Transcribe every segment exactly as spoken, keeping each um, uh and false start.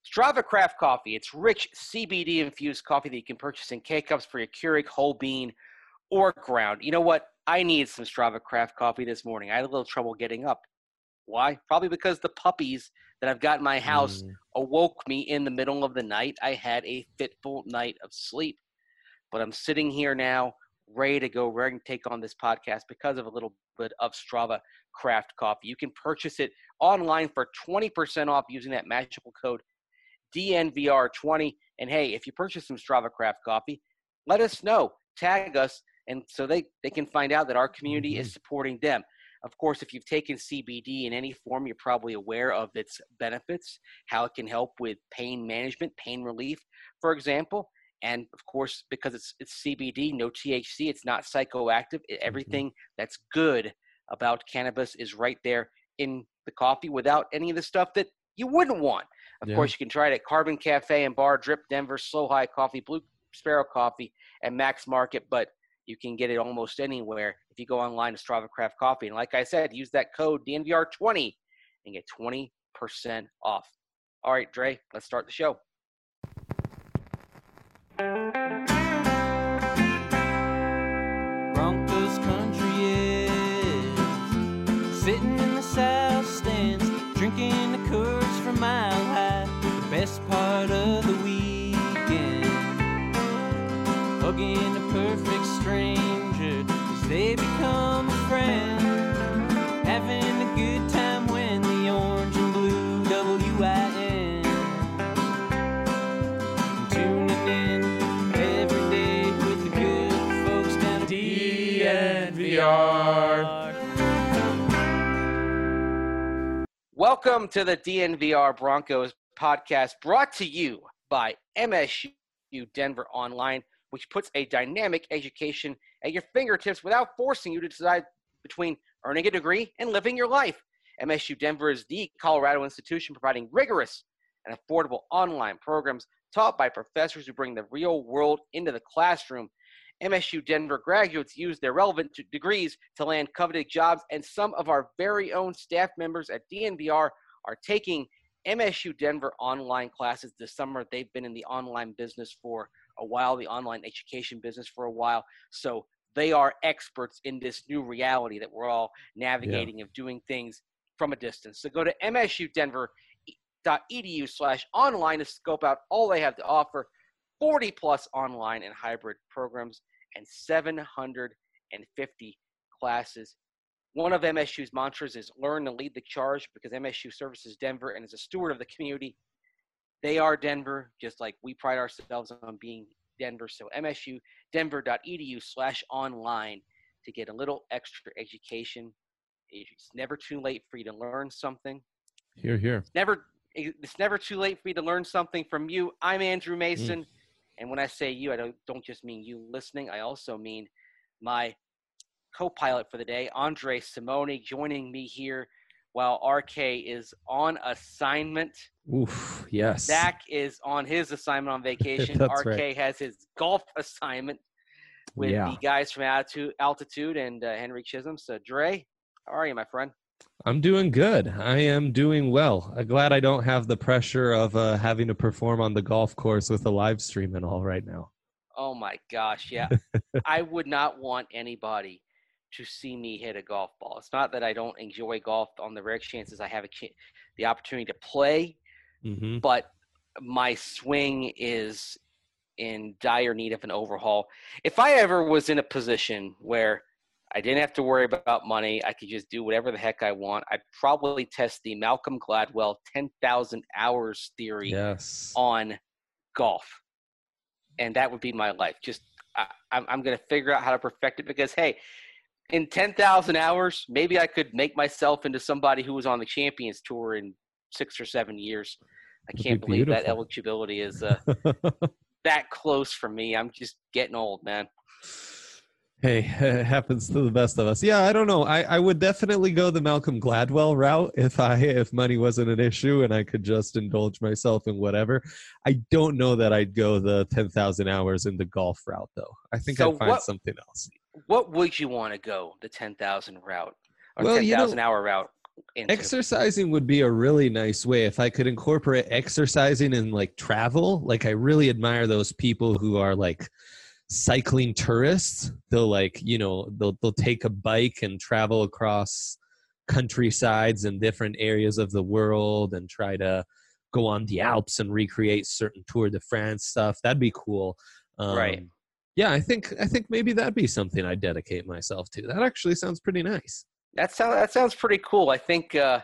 Strava Craft Coffee. It's rich C B D-infused coffee that you can purchase in K-Cups for your Keurig, whole bean, or ground. You know what? I needed some Strava Craft Coffee this morning. I had a little trouble getting up. Why? Probably because the puppies that I've got in my house mm. awoke me in the middle of the night. I had a fitful night of sleep. But I'm sitting here now, ready to go, ready to take on this podcast because of a little bit of Strava Craft Coffee. You can purchase it online for twenty percent off using that magical code D N V R twenty. And hey, if you purchase some Strava Craft Coffee, let us know, tag us, and so they, they can find out that our community mm-hmm. is supporting them. Of course, if you've taken C B D in any form, you're probably aware of its benefits, how it can help with pain management, pain relief, for example. And, of course, because it's it's C B D, no T H C, it's not psychoactive. It, everything mm-hmm. that's good about cannabis is right there in the coffee without any of the stuff that you wouldn't want. Of yeah. course, you can try it at Carbon Cafe and Bar, Drip, Denver, Slow High Coffee, Blue Sparrow Coffee, and Max Market. But you can get it almost anywhere if you go online to Strava Craft Coffee. And like I said, use that code D N V R twenty and get twenty percent off. All right, Dre, let's start the show. Broncos country is sitting in the south stands, drinking the Coors from Mile High. The best part of the weekend, hugging a perfect stranger as they become a friend, having a good time when the orange and blue W I N, tuning in every day with the good folks down at D N V R. Welcome to the D N V R Broncos podcast, brought to you by M S U Denver Online, which puts a dynamic education at your fingertips without forcing you to decide between earning a degree and living your life. M S U Denver is the Colorado institution providing rigorous and affordable online programs taught by professors who bring the real world into the classroom. M S U Denver graduates use their relevant degrees to land coveted jobs, and some of our very own staff members at D N V R are taking M S U Denver online classes this summer. They've been in the online business for a while, the online education business for a while, so they are experts in this new reality that we're all navigating yeah. of doing things from a distance. So go to M S U Denver dot E D U slash online to scope out all they have to offer. forty plus online and hybrid programs and seven hundred fifty classes. One of M S U's mantras is learn and lead the charge, because M S U services Denver and is a steward of the community. They are Denver, just like we pride ourselves on being Denver. So M S U Denver dot E D U slash online to get a little extra education. It's never too late for you to learn something. Here, here. Never, it's never too late for you to learn something from you. I'm Andrew Mason. Mm. And when I say you, I don't, don't just mean you listening. I also mean my co-pilot for the day, Andre Simone, joining me here while R K is on assignment. Oof, yes. Zach is on his assignment on vacation. R K right. has his golf assignment with yeah. the guys from Altitude, Altitude and uh, Henry Chisholm. So, Dre, how are you, my friend? I'm doing good. I am doing well. I'm glad I don't have the pressure of uh, having to perform on the golf course with a live stream and all right now. Oh, my gosh, yeah. I would not want anybody to see me hit a golf ball. It's not that I don't enjoy golf on the rare chances I have a ch- the opportunity to play, mm-hmm. but my swing is in dire need of an overhaul. If I ever was in a position where I didn't have to worry about money, I could just do whatever the heck I want, I'd probably test the Malcolm Gladwell ten thousand hours theory yes. on golf. And that would be my life. Just I, I'm, I'm going to figure out how to perfect it, because, hey, in ten thousand hours, maybe I could make myself into somebody who was on the Champions Tour in six or seven years. I That'd can't be believe beautiful. that eligibility is uh, that close for me. I'm just getting old, man. Hey, it happens to the best of us. Yeah, I don't know. I, I would definitely go the Malcolm Gladwell route if I if money wasn't an issue and I could just indulge myself in whatever. I don't know that I'd go the ten thousand hours in the golf route, though. I think so I'd find what, something else. What would you want to go, the ten thousand route or well, ten thousand you know, hour route? into. Exercising would be a really nice way if I could incorporate exercising in like travel. Like I really admire those people who are like cycling tourists. They'll like, you know, they'll they'll take a bike and travel across countrysides and different areas of the world and try to go on the Alps and recreate certain Tour de France stuff. That'd be cool. Um, Right. Yeah, I think I think maybe that'd be something I'd dedicate myself to. That actually sounds pretty nice. That sounds that sounds pretty cool. I think uh,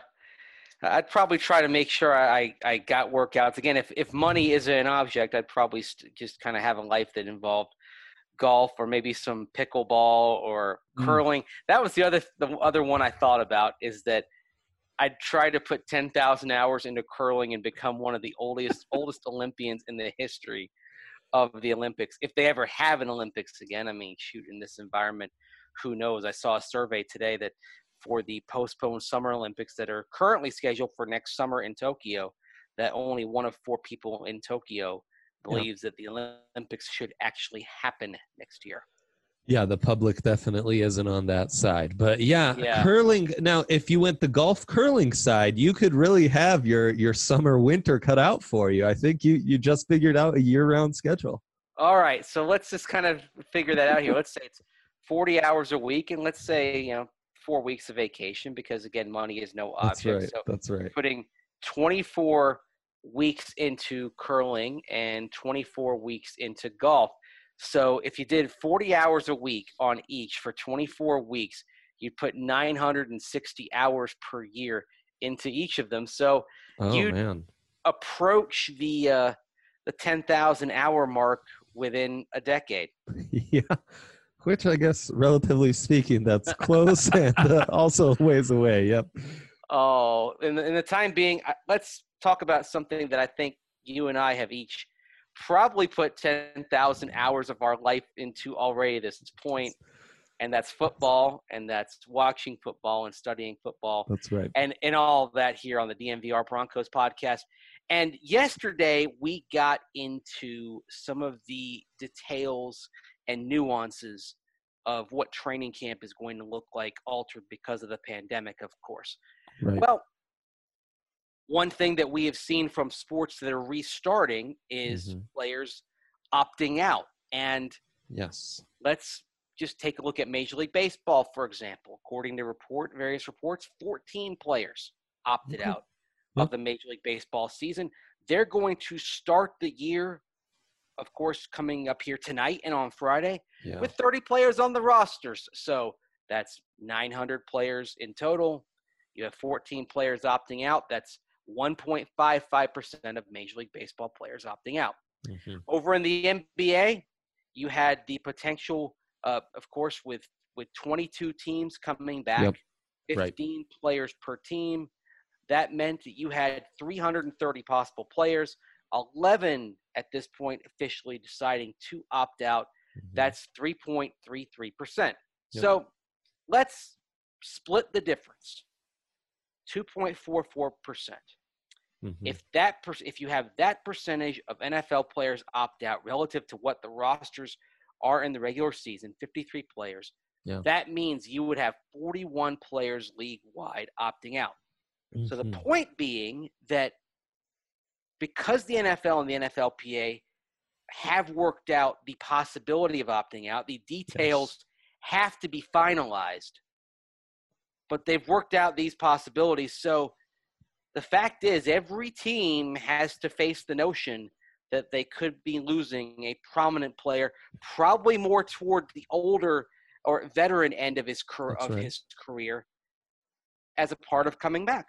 I'd probably try to make sure I, I got workouts. Again, if, if money isn't an object, I'd probably st- just kind of have a life that involved golf or maybe some pickleball or curling. Mm. That was the other the other one I thought about, is that I'd try to put ten thousand hours into curling and become one of the oldest oldest Olympians in the history of the Olympics, if they ever have an Olympics again. I mean, shoot, in this environment, who knows? I saw a survey today that for the postponed Summer Olympics that are currently scheduled for next summer in Tokyo, that only one of four people in Tokyo believes yeah. that the Olympics should actually happen next year. Yeah, the public definitely isn't on that side. But yeah, yeah, curling. Now, if you went the golf curling side, you could really have your your summer winter cut out for you. I think you you just figured out a year-round schedule. All right, so let's just kind of figure that out here. Let's say it's forty hours a week, and let's say, you know, four weeks of vacation, because again, money is no object. That's right. So That's right. Putting twenty-four weeks into curling and twenty-four weeks into golf. So if you did forty hours a week on each for twenty-four weeks, you'd put nine hundred sixty hours per year into each of them. So oh, you'd man. approach the uh, the ten thousand hour mark within a decade. Yeah, which I guess, relatively speaking, that's close and uh, also ways away. Yep. Oh, in the, in the time being, let's talk about something that I think you and I have each probably put ten thousand hours of our life into already at this point, and that's football, and that's watching football and studying football. That's right. And, and all of that here on the D N V R Broncos podcast. And yesterday we got into some of the details and nuances of what training camp is going to look like, altered because of the pandemic, of course. Right. Well, one thing that we have seen from sports that are restarting is mm-hmm. players opting out. And yes, let's just take a look at Major League Baseball, for example. According to report, various reports, fourteen players opted okay. out yep. of the Major League Baseball season. They're going to start the year, of course, coming up here tonight and on Friday yeah. with thirty players on the rosters. So that's nine hundred players in total. You have fourteen players opting out. That's one point five five percent of Major League Baseball players opting out. Mm-hmm. Over in the N B A, you had the potential, uh, of course, with, with twenty-two teams coming back, yep. fifteen right. players per team. That meant that you had three hundred thirty possible players, eleven at this point officially deciding to opt out. Mm-hmm. That's three point three three percent. Yep. So let's split the difference. two point four four percent. Mm-hmm. If that per- if you have that percentage of N F L players opt out relative to what the rosters are in the regular season, fifty-three players, yeah. that means you would have forty-one players league-wide opting out. Mm-hmm. So the point being that because the N F L and the N F L P A have worked out the possibility of opting out, the details yes. have to be finalized. But they've worked out these possibilities. So the fact is, every team has to face the notion that they could be losing a prominent player, probably more toward the older or veteran end of his car- of right. his career, as a part of coming back.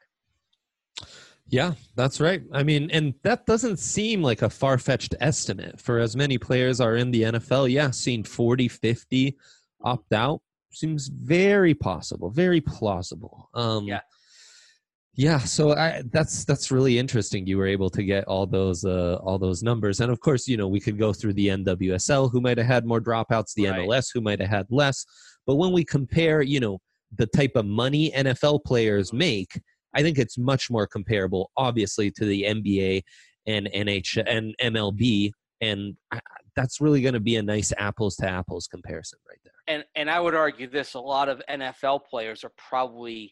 Yeah, that's right. I mean, and that doesn't seem like a far-fetched estimate for as many players are in the N F L. Yeah, seeing forty, fifty opt out seems very possible, very plausible. Um, yeah. Yeah, so I, that's that's really interesting. You were able to get all those uh, all those numbers, and of course, you know, we could go through the N W S L, who might have had more dropouts, the right. M L S, who might have had less. But when we compare, you know, the type of money N F L players make, I think it's much more comparable, obviously, to the N B A and N H and M L B, and that's really going to be a nice apples to apples comparison right there. And and I would argue this: a lot of N F L players are probably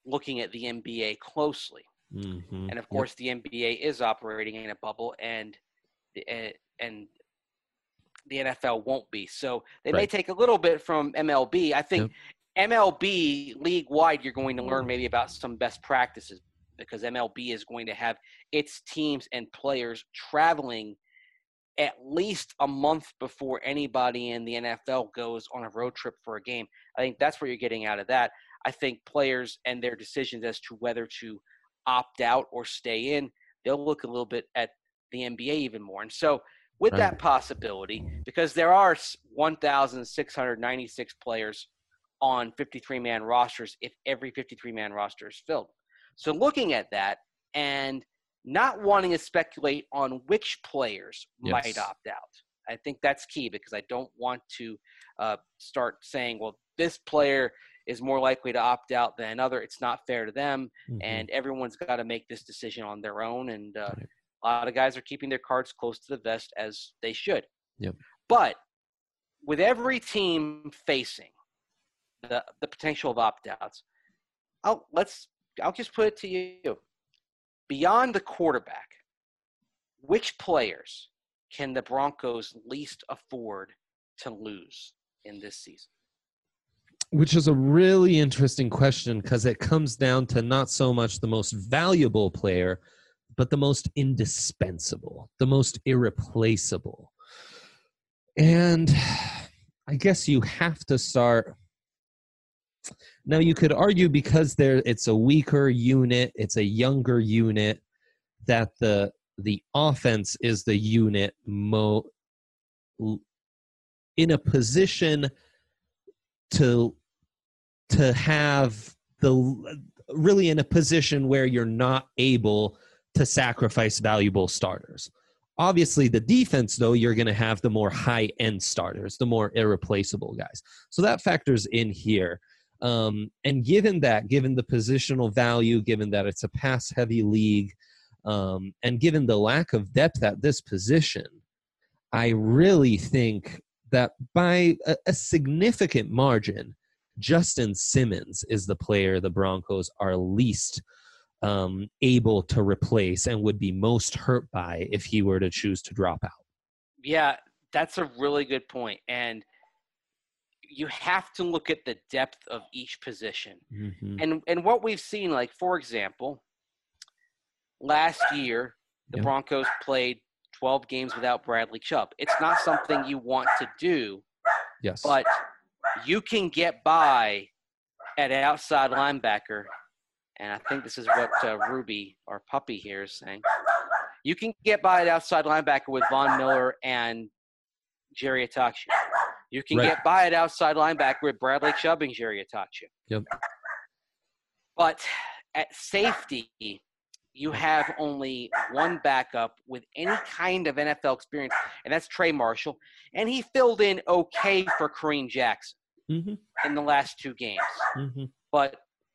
looking at the N B A closely. Mm-hmm. And of course, yep. the N B A is operating in a bubble, and the, and the N F L won't be. So they right. may take a little bit from M L B. I think yep. M L B league-wide, you're going to learn maybe about some best practices, because M L B is going to have its teams and players traveling at least a month before anybody in the N F L goes on a road trip for a game. I think that's what you're getting out of that. I think players and their decisions as to whether to opt out or stay in, they'll look a little bit at the N B A even more. And so with right. that possibility, because there are one thousand six hundred ninety-six players on fifty-three man rosters if every fifty-three man roster is filled. So looking at that and not wanting to speculate on which players yes. might opt out, I think that's key, because I don't want to uh, start saying, well, this player is more likely to opt out than another. It's not fair to them, mm-hmm. and everyone's got to make this decision on their own. And uh, right. a lot of guys are keeping their cards close to the vest, as they should. Yep. But with every team facing the the potential of opt-outs, I'll let's I'll just put it to you: beyond the quarterback, which players can the Broncos least afford to lose in this season? Which is a really interesting question, because it comes down to not so much the most valuable player, but the most indispensable, the most irreplaceable. And I guess you have to start. Now, you could argue, because there it's a weaker unit, it's a younger unit, that the the offense is the unit mo in a position to to have the really in a position where you're not able to sacrifice valuable starters. Obviously, the defense, though, you're going to have the more high-end starters, the more irreplaceable guys. So that factors in here. Um, and given that, given the positional value, given that it's a pass-heavy league, um, and given the lack of depth at this position, I really think that by a, a significant margin, Justin Simmons is the player the Broncos are least um, able to replace and would be most hurt by if he were to choose to drop out. Yeah, that's a really good point. And you have to look at the depth of each position. Mm-hmm. And and what we've seen, like, for example, last year, the yep. Broncos played twelve games without Bradley Chubb. It's not something you want to do. Yes. But you can get by at an outside linebacker, and I think this is what uh, Ruby, our puppy here, is saying. You can get by at outside linebacker with Von Miller and Jerry Atachi. You can right. get by at outside linebacker with Bradley Chubb and Jerry Atachi. Yep. But at safety, you have only one backup with any kind of N F L experience, and that's Trey Marshall. And he filled in okay for Kareem Jackson mm-hmm. in the last two games, mm-hmm. but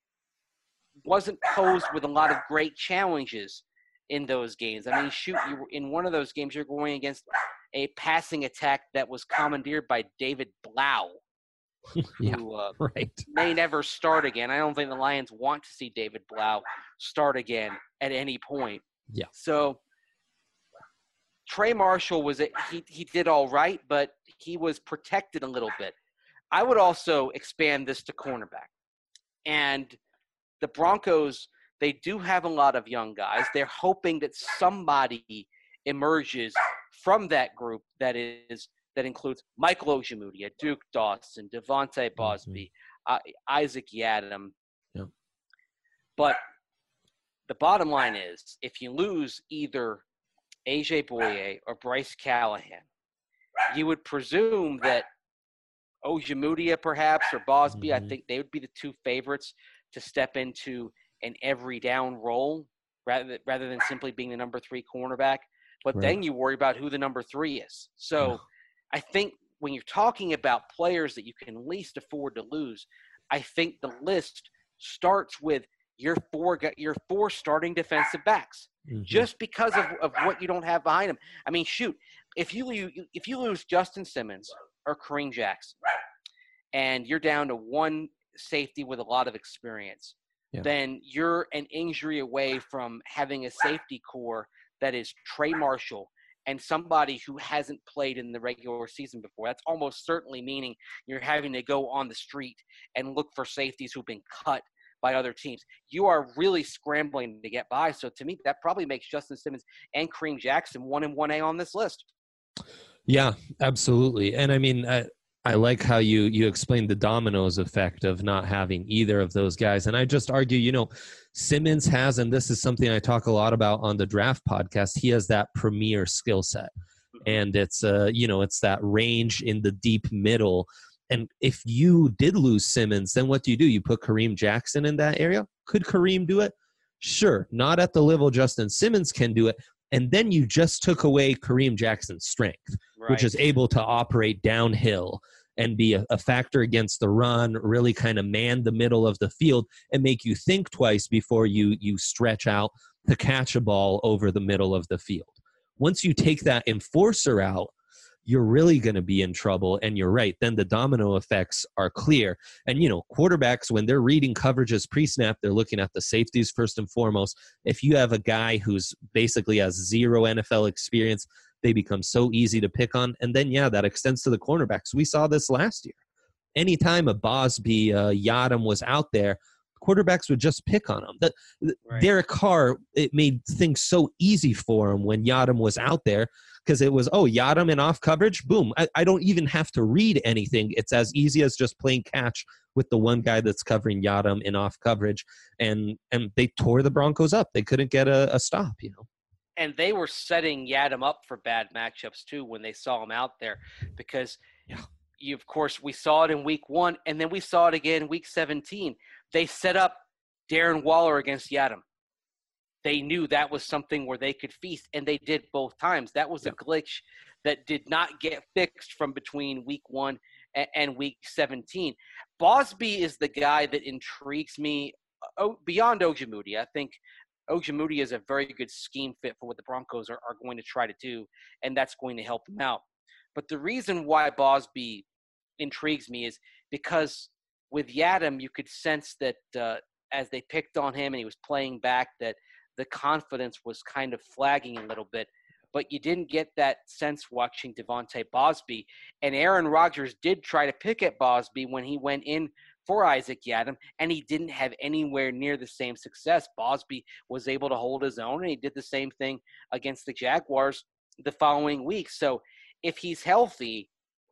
wasn't posed with a lot of great challenges in those games. I mean, shoot, you were, in one of those games, you're going against a passing attack that was commandeered by David Blau, yeah, who uh, right. may never start again. I don't think the Lions want to see David Blau start again at any point. Yeah. So Trey Marshall was a, he he did all right, but he was protected a little bit. I would also expand this to cornerback. And the Broncos, they do have a lot of young guys. They're hoping that somebody emerges from that group that is that includes Michael Ojemudia, Duke Dawson, Devontae Bosby, mm-hmm. uh, Isaac Yiadom. Yeah. But the bottom line is, if you lose either A J Bouye or Bryce Callahan, you would presume that Ojemudia perhaps or Bosby, mm-hmm. I think they would be the two favorites to step into an every down role rather than, rather than simply being the number three cornerback. But right. then you worry about who the number three is. So yeah. I think when you're talking about players that you can least afford to lose, I think the list starts with your four your four starting defensive backs, mm-hmm. just because of, of what you don't have behind them. I mean, shoot, if you if you lose Justin Simmons or Kareem Jackson, and you're down to one safety with a lot of experience, Yeah. then you're an injury away from having a safety core that is Trey Marshall and somebody who hasn't played in the regular season before. That's almost certainly meaning you're having to go on the street and look for safeties who've been cut by other teams. You are really scrambling to get by. So to me, that probably makes Justin Simmons and Kareem Jackson one and one A on this list. Yeah, absolutely. And I mean, I, I like how you you explained the dominoes effect of not having either of those guys. And I just argue, you know, Simmons has, and this is something I talk a lot about on the Draft podcast, he has that premier skill set. And it's, uh, you know, it's that range in the deep middle. And if you did lose Simmons, then what do you do? You put Kareem Jackson in that area? Could Kareem do it? Sure. Not at the level Justin Simmons can do it. And then you just took away Kareem Jackson's strength, Right. which is able to operate downhill and be a, a factor against the run, really kind of man the middle of the field and make you think twice before you you stretch out to catch a ball over the middle of the field. Once you take that enforcer out, you're really going to be in trouble. And you're right. Then the domino effects are clear. And, you know, quarterbacks, when they're reading coverages pre-snap, they're looking at the safeties first and foremost. If you have a guy who's basically has zero N F L experience, they become so easy to pick on. And then, yeah, that extends to the cornerbacks. We saw this last year. Anytime a Bosby, uh, Yadam was out there, quarterbacks would just pick on him. The, Right. Derek Carr, it made things so easy for him when Yadam was out there because it was, oh, Yadam in off coverage, boom. I, I don't even have to read anything. It's as easy as just playing catch with the one guy that's covering Yadam in off coverage. And and they tore the Broncos up. They couldn't get a, a stop, you know. And they were setting Yadam up for bad matchups too when they saw him out there because Yeah. you, of course, we saw it in week one and then we saw it again in week seventeen. They set up Darren Waller against Yadam. They knew that was something where they could feast, and they did both times. That was a glitch that did not get fixed from between week one and, and week seventeen. Bosby is the guy that intrigues me oh, beyond Ojemudia. I think Ojemudia is a very good scheme fit for what the Broncos are, are going to try to do, and that's going to help them out. But the reason why Bosby intrigues me is because with Yadam, you could sense that uh, as they picked on him and he was playing back, that the confidence was kind of flagging a little bit. But you didn't get that sense watching Devontae Bosby. And Aaron Rodgers did try to pick at Bosby when he went in for Isaac Yadam, and he didn't have anywhere near the same success. Bosby was able to hold his own, and he did the same thing against the Jaguars the following week. So if he's healthy,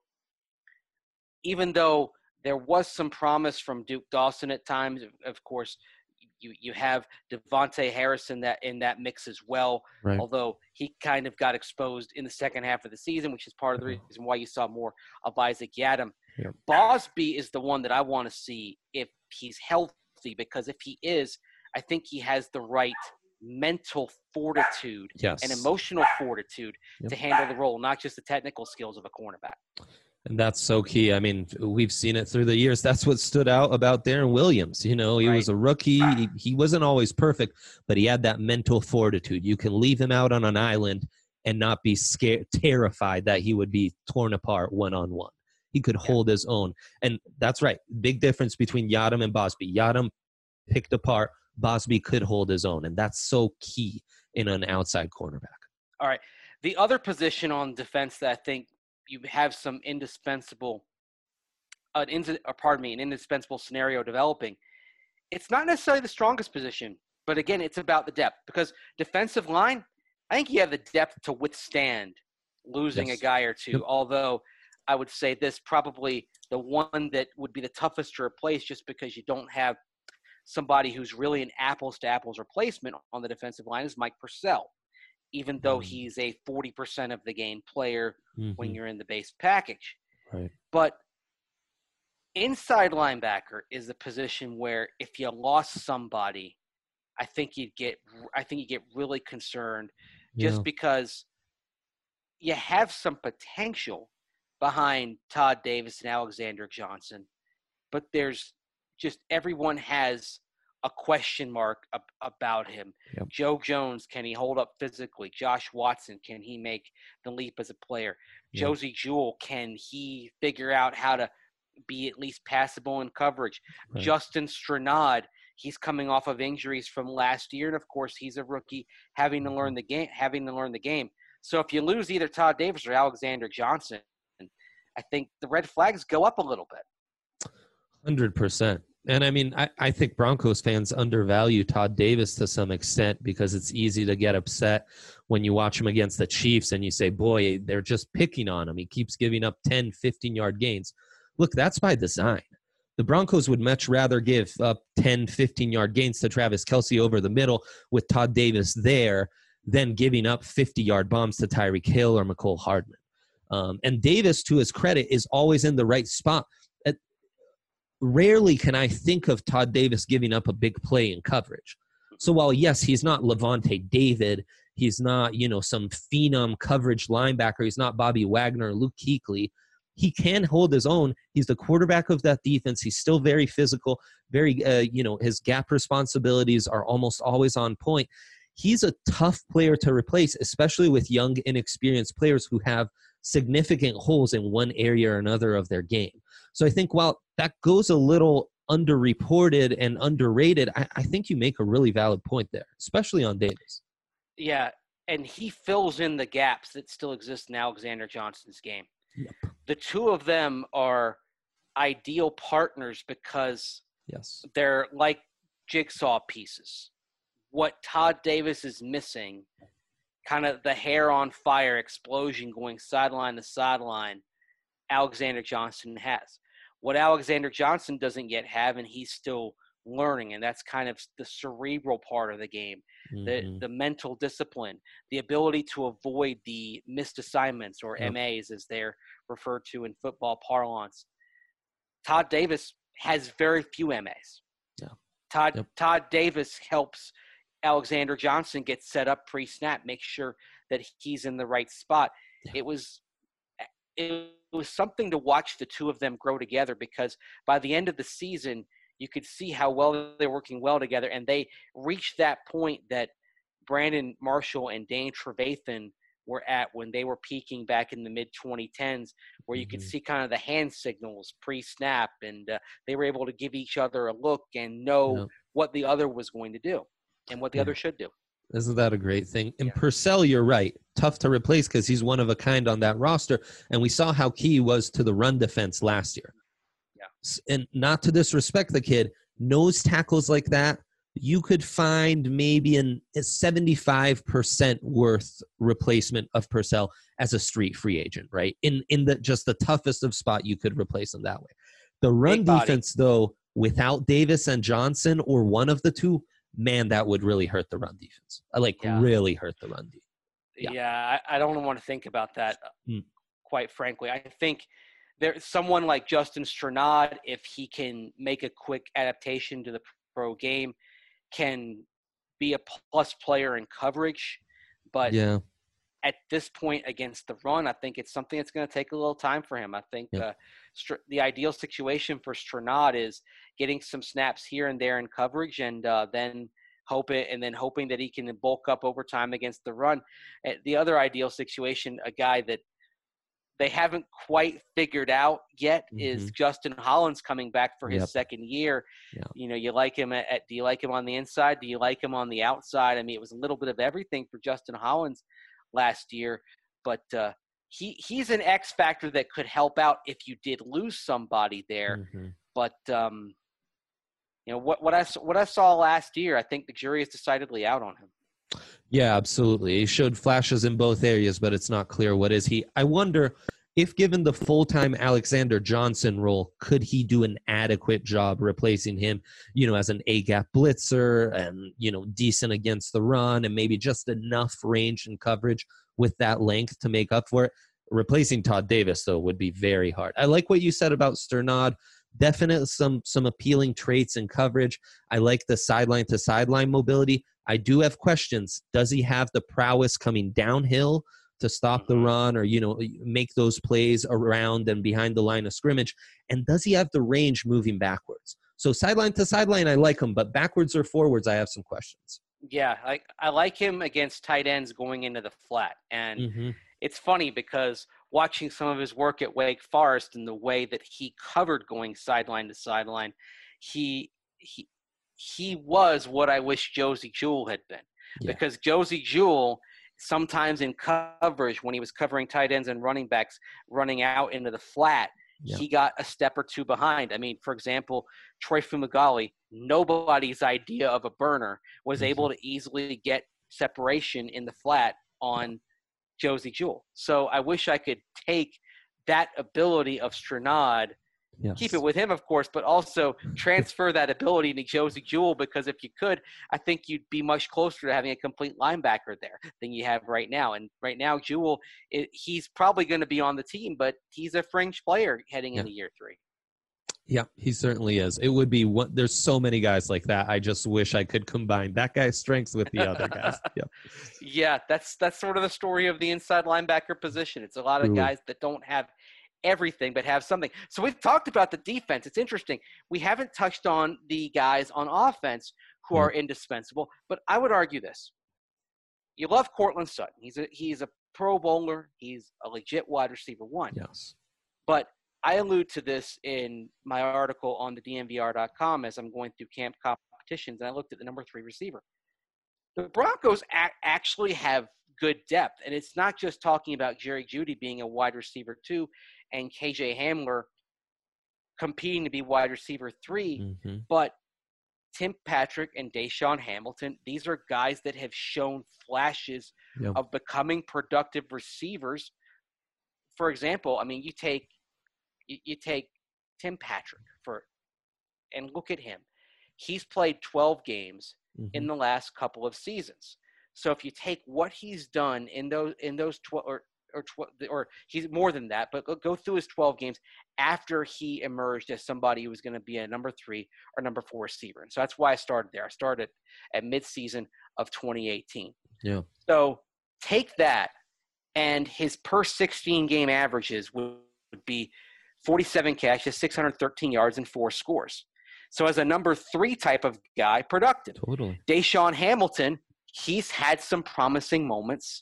even though there was some promise from Duke Dawson at times, of, of course, you you have Devontae Harrison that in that mix as well, Right. although he kind of got exposed in the second half of the season, which is part of the reason why you saw more of Isaac Yadam. Yeah. Bosby is the one that I want to see if he's healthy, because if he is, I think he has the right mental fortitude Yes. and emotional fortitude Yep. to handle the role, not just the technical skills of a cornerback. And that's so key. I mean, we've seen it through the years. That's what stood out about Darren Williams. You know, he Right. was a rookie. He, he wasn't always perfect, but he had that mental fortitude. You can leave him out on an island and not be scared, terrified that he would be torn apart one-on-one. He could hold his own. And that's right. Big difference between Yadam and Bosby. Yadam picked apart. Bosby could hold his own. And that's so key in an outside cornerback. All right. The other position on defense that I think you have some indispensable, uh, in, or pardon me, an indispensable scenario developing. It's not necessarily the strongest position, but again, it's about the depth, because defensive line, I think you have the depth to withstand losing Yes. a guy or two. Yep. Although I would say this probably the one that would be the toughest to replace, just because you don't have somebody who's really an apples to apples replacement on the defensive line, is Mike Purcell. Even though Mm. he's a forty percent of the game player when Mhm. you're in the base package. Right. But inside linebacker is the position where if you lost somebody, I think you'd get I think you get really concerned, just Yeah. because you have some potential behind Todd Davis and Alexander Johnson, but there's just everyone has a question mark ab- about him. Yep. Joe Jones, can he hold up physically? Josh Watson, can he make the leap as a player? Yep. Josie Jewell, can he figure out how to be at least passable in coverage? Right. Justin Stranad, he's coming off of injuries from last year, and of course, he's a rookie having to learn the game. Having to learn the game. So if you lose either Todd Davis or Alexander Johnson, I think the red flags go up a little bit. one hundred percent. And I mean, I, I think Broncos fans undervalue Todd Davis to some extent because it's easy to get upset when you watch him against the Chiefs and you say, boy, they're just picking on him. He keeps giving up ten, fifteen-yard gains. Look, that's by design. The Broncos would much rather give up ten, fifteen-yard gains to Travis Kelce over the middle with Todd Davis there than giving up fifty-yard bombs to Tyreek Hill or McCole Hardman. Um, and Davis, to his credit, is always in the right spot. At, rarely can I think of Todd Davis giving up a big play in coverage. So while, yes, he's not Levante David, he's not, you know, some phenom coverage linebacker, he's not Bobby Wagner or Luke Kuechly, he can hold his own. He's the quarterback of that defense. He's still very physical, very, uh, you know, his gap responsibilities are almost always on point. He's a tough player to replace, especially with young, inexperienced players who have significant holes in one area or another of their game. So I think while that goes a little underreported and underrated, I, I think you make a really valid point there, especially on Davis. Yeah, and he fills in the gaps that still exist in Alexander Johnson's game. Yep. The two of them are ideal partners because yes, they're like jigsaw pieces. What Todd Davis is missing, kind of the hair on fire explosion going sideline to sideline, Alexander Johnson has. What Alexander Johnson doesn't yet have, and he's still learning, and that's kind of the cerebral part of the game, mm-hmm. the the mental discipline, the ability to avoid the missed assignments, or yep. M As as they're referred to in football parlance. Todd Davis has very few M As. Yeah. Todd yep. Todd Davis helps Alexander Johnson get set up pre-snap, make sure that he's in the right spot. Yeah. It was it was something to watch the two of them grow together, because by the end of the season, you could see how well they're working well together, and they reached that point that Brandon Marshall and Dane Trevathan were at when they were peaking back in the mid twenty tens, where you mm-hmm. could see kind of the hand signals pre-snap, and uh, they were able to give each other a look and know yeah. what the other was going to do and what the yeah. other should do. Isn't that a great thing? And yeah. Purcell, you're right. Tough to replace because he's one of a kind on that roster. And we saw how key he was to the run defense last year. Yeah. And not to disrespect the kid, nose tackles like that, you could find maybe an, a seventy-five percent worth replacement of Purcell as a street free agent, right? In in the just the toughest of spot, you could replace him that way. The run defense, though, without Davis and Johnson or one of the two, man, that would really hurt the run defense. Like, yeah. really hurt the run defense. Yeah, yeah I, I don't want to think about that, mm. quite frankly. I think there's someone like Justin Strnad, if he can make a quick adaptation to the pro game, can be a plus player in coverage. But yeah. at this point against the run, I think it's something that's going to take a little time for him. I think yeah. uh, Str- the ideal situation for Strnad is getting some snaps here and there in coverage, and uh, then hope it, and then hoping that he can bulk up over time against the run. Uh, the other ideal situation, a guy that they haven't quite figured out yet, mm-hmm. is Justin Hollins coming back for his yep. second year. Yeah. You know, you like him at, at, do you like him on the inside? Do you like him on the outside? I mean, it was a little bit of everything for Justin Hollins last year, but uh, he he's an X factor that could help out if you did lose somebody there. Mm-hmm. But um, you know what what I what I saw last year, I think the jury is decidedly out on him. Yeah, absolutely. He showed flashes in both areas, but it's not clear what is he. I wonder if given the full-time Alexander Johnson role, could he do an adequate job replacing him, you know, as an A-gap blitzer and, you know, decent against the run and maybe just enough range and coverage with that length to make up for it. Replacing Todd Davis, though, would be very hard. I like what you said about Strnad. Definitely some some appealing traits in coverage. I like the sideline to sideline mobility. I do have questions. Does he have the prowess coming downhill to stop the run, or, you know, make those plays around and behind the line of scrimmage? And does he have the range moving backwards? So sideline to sideline, I like him, but backwards or forwards, I have some questions. Yeah, I, I like him against tight ends going into the flat. And mm-hmm. it's funny because watching some of his work at Wake Forest and the way that he covered going sideline to sideline, he he he was what I wish Josie Jewell had been. Yeah. Because Josie Jewell, sometimes in coverage, when he was covering tight ends and running backs running out into the flat, Yeah. he got a step or two behind. I mean, for example, Troy Fumagalli, nobody's idea of a burner, was Mhm. able to easily get separation in the flat on Josie Jewell. So I wish I could take that ability of Stranad, Yes. keep it with him, of course, but also transfer that ability to Josie Jewell, because if you could, I think you'd be much closer to having a complete linebacker there than you have right now. And right now, Jewell, it, he's probably going to be on the team, but he's a fringe player heading Yeah. into year three. Yeah, he certainly is. It would be one. There's so many guys like that. I just wish I could combine that guy's strengths with the other guys. Yeah. Yeah, that's that's sort of the story of the inside linebacker position. It's a lot of Truly. guys that don't have everything but have something. So we've talked about the defense. It's interesting. We haven't touched on the guys on offense who Yeah. are indispensable, but I would argue this. You love Cortland Sutton. He's a he's a pro bowler. He's a legit wide receiver one. Yes. But I allude to this in my article on the D N V R dot com as I'm going through camp competitions, and I looked at the number three receiver. The Broncos a- actually have good depth, and it's not just talking about Jerry Jeudy being a wide receiver two and K J Hamler competing to be wide receiver three, hmm but Tim Patrick and Deshaun Hamilton, these are guys that have shown flashes Yeah. of becoming productive receivers. For example, I mean, you take you, you take Tim Patrick for, and look at him. He's played twelve games hmm in the last couple of seasons. So if you take what he's done in those in those twelve or or twelve, or he's more than that, but go, go through his twelve games after he emerged as somebody who was going to be a number three or number four receiver. And so that's why I started there. I started at midseason of twenty eighteen. Yeah. So take that, and his per sixteen game averages would, would be forty-seven catches, six hundred thirteen yards, and four scores. So as a number three type of guy, productive. Totally. Deshaun Hamilton, he's had some promising moments,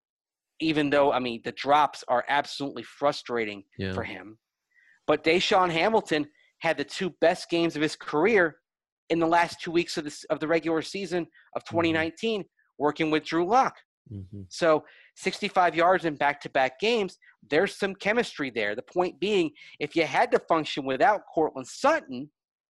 even though, I mean, the drops are absolutely frustrating Yeah. for him. But Deshaun Hamilton had the two best games of his career in the last two weeks of, this, of the regular season of twenty nineteen, working with Drew Lock. hmm So sixty-five yards in back-to-back games, there's some chemistry there. The point being, if you had to function without Cortland Sutton,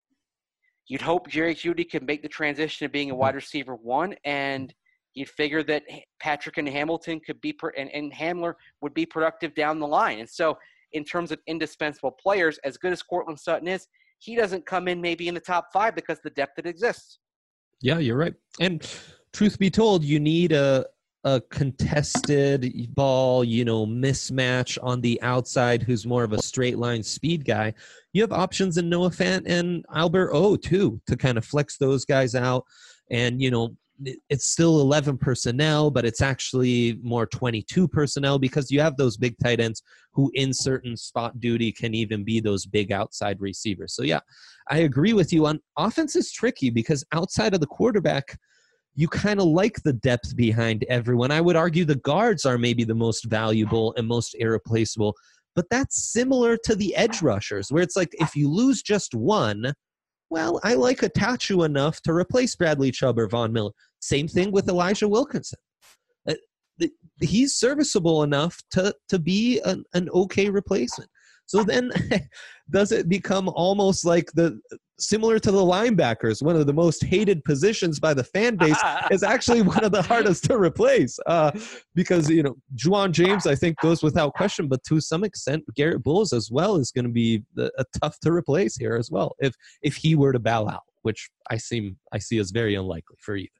you'd hope Jerry Jeudy could make the transition to being a wide receiver one, and you'd figure that Patrick and Hamilton could be – and, and Hamler would be productive down the line. And so in terms of indispensable players, as good as Cortland Sutton is, he doesn't come in maybe in the top five because of the depth that exists. Yeah, you're right. And truth be told, you need a a contested ball, you know, mismatch on the outside who's more of a straight line speed guy. You have options in Noah Fant and Albert O too to kind of flex those guys out. And, you know, it's still eleven personnel, but it's actually more twenty-two personnel because you have those big tight ends who in certain spot duty can even be those big outside receivers. So yeah, I agree with you on offense is tricky because outside of the quarterback, you kind of like the depth behind everyone. I would argue the guards are maybe the most valuable and most irreplaceable, but that's similar to the edge rushers where it's like if you lose just one, well, I like Atachu enough to replace Bradley Chubb or Von Miller. Same thing with Elijah Wilkinson. Uh, the, he's serviceable enough to, to be an, an okay replacement. So then does it become almost like the similar to the linebackers, one of the most hated positions by the fan base is actually one of the hardest to replace uh, because, you know, Juwan James, I think, goes without question, but to some extent, Garrett Bowles as well is going to be the, a tough to replace here as well if if he were to bow out, which I seem I see as very unlikely for either.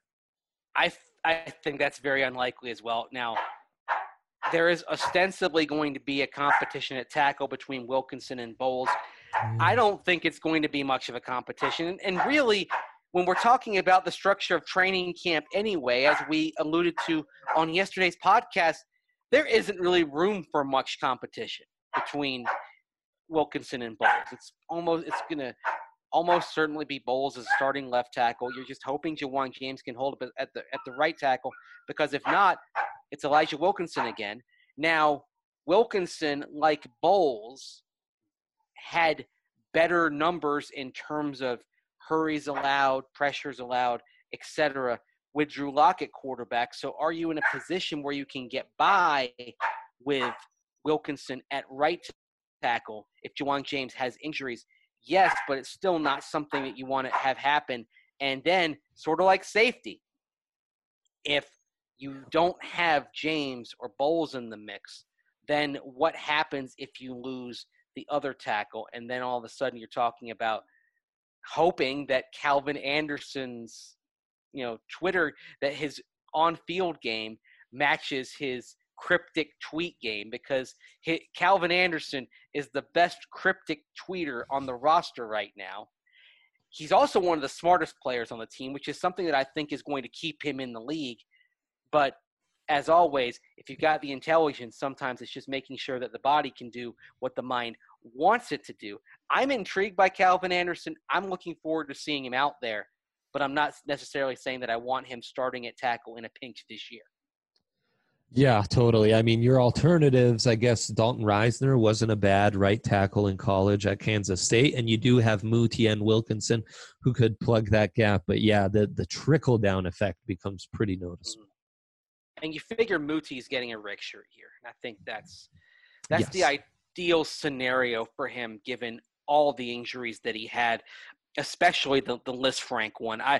I I think that's very unlikely as well. Now, there is ostensibly going to be a competition at tackle between Wilkinson and Bowles. I don't think it's going to be much of a competition. And really, when we're talking about the structure of training camp anyway, as we alluded to on yesterday's podcast, there isn't really room for much competition between Wilkinson and Bowles. It's almost it's going to almost certainly be Bowles as starting left tackle. You're just hoping Juwan James can hold up at the at the right tackle because if not, it's Elijah Wilkinson again. Now, Wilkinson, like Bowles, had better numbers in terms of hurries allowed, pressures allowed, et cetera, with Drew Lock at quarterback. So are you in a position where you can get by with Wilkinson at right tackle if Ja'Wuan James has injuries? Yes, but it's still not something that you want to have happen. And then sort of like safety, if you don't have James or Bowles in the mix, then what happens if you lose the other tackle? And then all of a sudden you're talking about hoping that Calvin Anderson's, you know, Twitter, that his on-field game matches his cryptic tweet game, because he, Calvin Anderson is the best cryptic tweeter on the roster right now. He's also one of the smartest players on the team, which is something that I think is going to keep him in the league. But as always, if you've got the intelligence, sometimes it's just making sure that the body can do what the mind wants it to do. I'm intrigued by Calvin Anderson. I'm looking forward to seeing him out there, but I'm not necessarily saying that I want him starting at tackle in a pinch this year. Yeah, totally. I mean, your alternatives, I guess Dalton Reisner wasn't a bad right tackle in college at Kansas State, and you do have Muti and Wilkinson who could plug that gap. But yeah, the, the trickle-down effect becomes pretty noticeable. And you figure Muti's getting a Rick shirt here. And I think that's that's Yes. the ideal scenario for him, given all the injuries that he had, especially the, the Lisfranc one. I,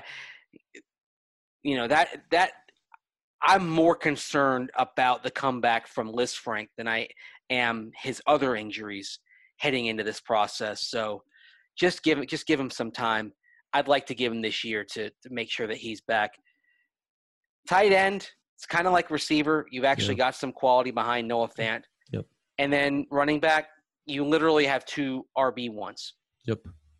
you know, that that – I'm more concerned about the comeback from Lisfranc than I am his other injuries heading into this process. So just give it, just give him some time. I'd like to give him this year to, to make sure that he's back. Tight end, it's kind of like receiver. You've actually Yeah. got some quality behind Noah Fant. Yep. And then running back, you literally have two R B ones. Yep.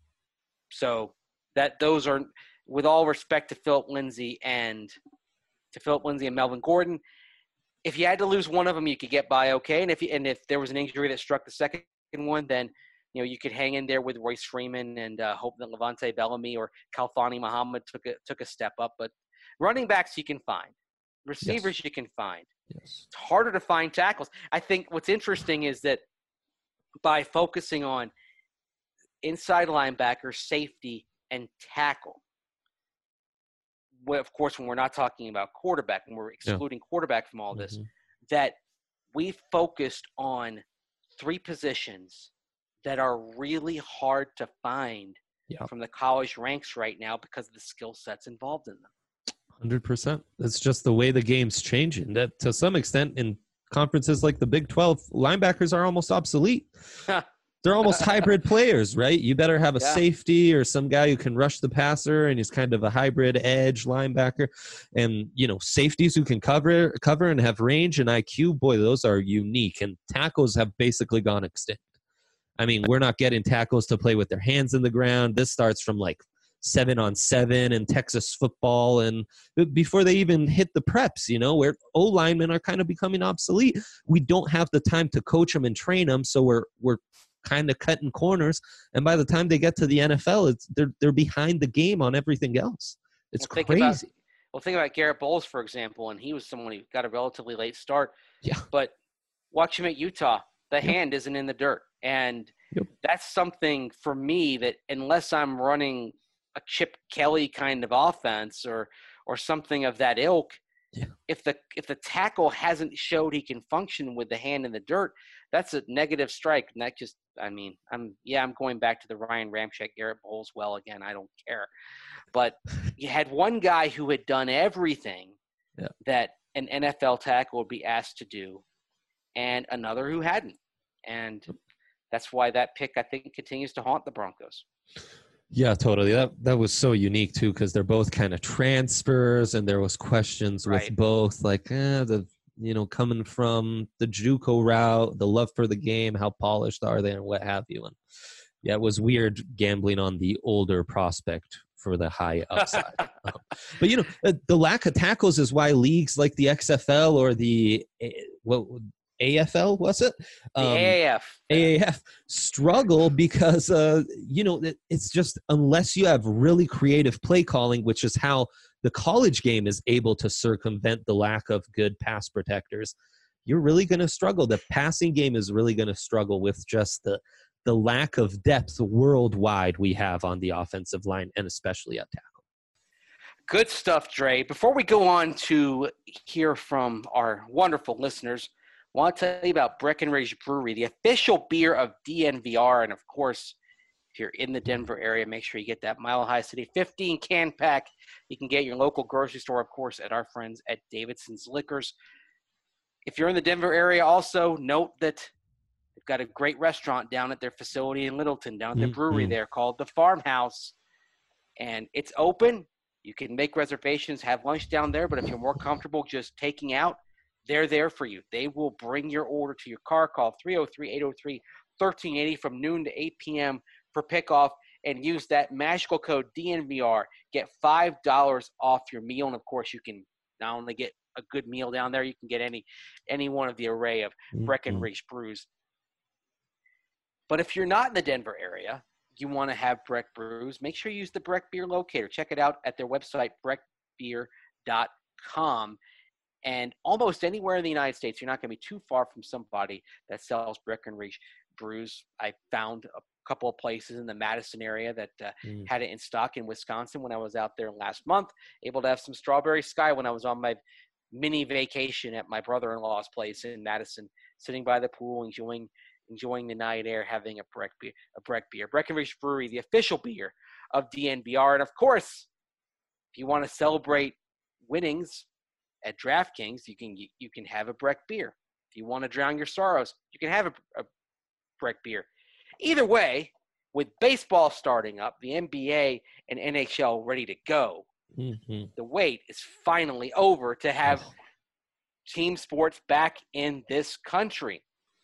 So that those are, with all respect to Philip Lindsay and – to Philip Lindsay and Melvin Gordon, if you had to lose one of them, you could get by okay. And if you, and if there was an injury that struck the second one, then you know you could hang in there with Royce Freeman and uh, hope that Levante Bellamy or Khalfani Muhammad took a took a step up. But running backs you can find, receivers Yes. you can find. Yes. It's harder to find tackles. I think what's interesting is that by focusing on inside linebacker, safety, and tackle. Well, of course, when we're not talking about quarterback, when we're excluding yeah. quarterback from all this, mm-hmm. that we focused on three positions that are really hard to find yeah. from the college ranks right now because of the skill sets involved in them. one hundred percent. That's just the way the game's changing. That to some extent in conferences like the Big twelve, linebackers are almost obsolete. They're almost hybrid players, right? You better have a yeah. safety or some guy who can rush the passer, and he's kind of a hybrid edge linebacker. And, you know, safeties who can cover cover and have range and I Q, boy, those are unique. And tackles have basically gone extinct. I mean, we're not getting tackles to play with their hands in the ground. This starts from like seven on seven and Texas football, and before they even hit the preps, you know, where O-linemen are kind of becoming obsolete. We don't have the time to coach them and train them, so we're we're kind of cutting corners, and by the time they get to the N F L, it's they're they're behind the game on everything else. It's well, crazy. About, well, think about Garrett Bowles, for example, and he was someone who got a relatively late start. Yeah. But watch him at Utah. The yep. hand isn't in the dirt, and yep. that's something for me that unless I'm running a Chip Kelly kind of offense or or something of that ilk, yeah. if the if the tackle hasn't showed he can function with the hand in the dirt, that's a negative strike. And that just, I mean, I'm yeah, I'm going back to the Ryan Ramczyk, Garrett Bowles well again. I don't care. But you had one guy who had done everything yeah. that an N F L tackle would be asked to do, and another who hadn't. And that's why that pick, I think, continues to haunt the Broncos. Yeah, totally. That that was so unique too, because they're both kind of transfers, and there was questions right. with both, like eh, the you know coming from the JUCO route, the love for the game, how polished are they, and what have you. And yeah, it was weird gambling on the older prospect for the high upside. um, but you know, the, the lack of tackles is why leagues like the X F L or the what. A F L, was it? Um, the A A F. A A F struggle because, uh, you know, it, it's just unless you have really creative play calling, which is how the college game is able to circumvent the lack of good pass protectors, you're really going to struggle. The passing game is really going to struggle with just the the lack of depth worldwide we have on the offensive line and especially at tackle. Good stuff, Dre. Before we go on to hear from our wonderful listeners, I want to tell you about Breckenridge Brewery, the official beer of D N V R. And, of course, if you're in the Denver area, make sure you get that Mile High City fifteen can pack. You can get your local grocery store, of course, at our friends at Davidson's Liquors. If you're in the Denver area, also note that they've got a great restaurant down at their facility in Littleton, down at their mm-hmm. brewery there called The Farmhouse. And it's open. You can make reservations, have lunch down there. But if you're more comfortable just taking out, they're there for you. They will bring your order to your car. Call three oh three, eight oh three, one three eight oh from noon to eight p.m. for pickoff, and use that magical code D N V R. Get five dollars off your meal. And, of course, you can not only get a good meal down there, you can get any any one of the array of mm-hmm. Breckenridge brews. But if you're not in the Denver area, you want to have Breck brews, make sure you use the Breck Beer Locator. Check it out at their website, breck beer dot com. And almost anywhere in the United States, you're not going to be too far from somebody that sells Breckenridge brews. I found a couple of places in the Madison area that uh, mm. had it in stock in Wisconsin when I was out there last month. Able to have some Strawberry Sky when I was on my mini vacation at my brother-in-law's place in Madison, sitting by the pool, enjoying enjoying the night air, having a Breck beer. A Breck beer. Breckenridge Brewery, the official beer of D N V R. And, of course, if you want to celebrate winnings at DraftKings, you can you, you can have a Breck beer. If you want to drown your sorrows, you can have a, a Breck beer. Either way, with baseball starting up, the N B A and N H L ready to go, mm-hmm. the wait is finally over to have team sports back in this country.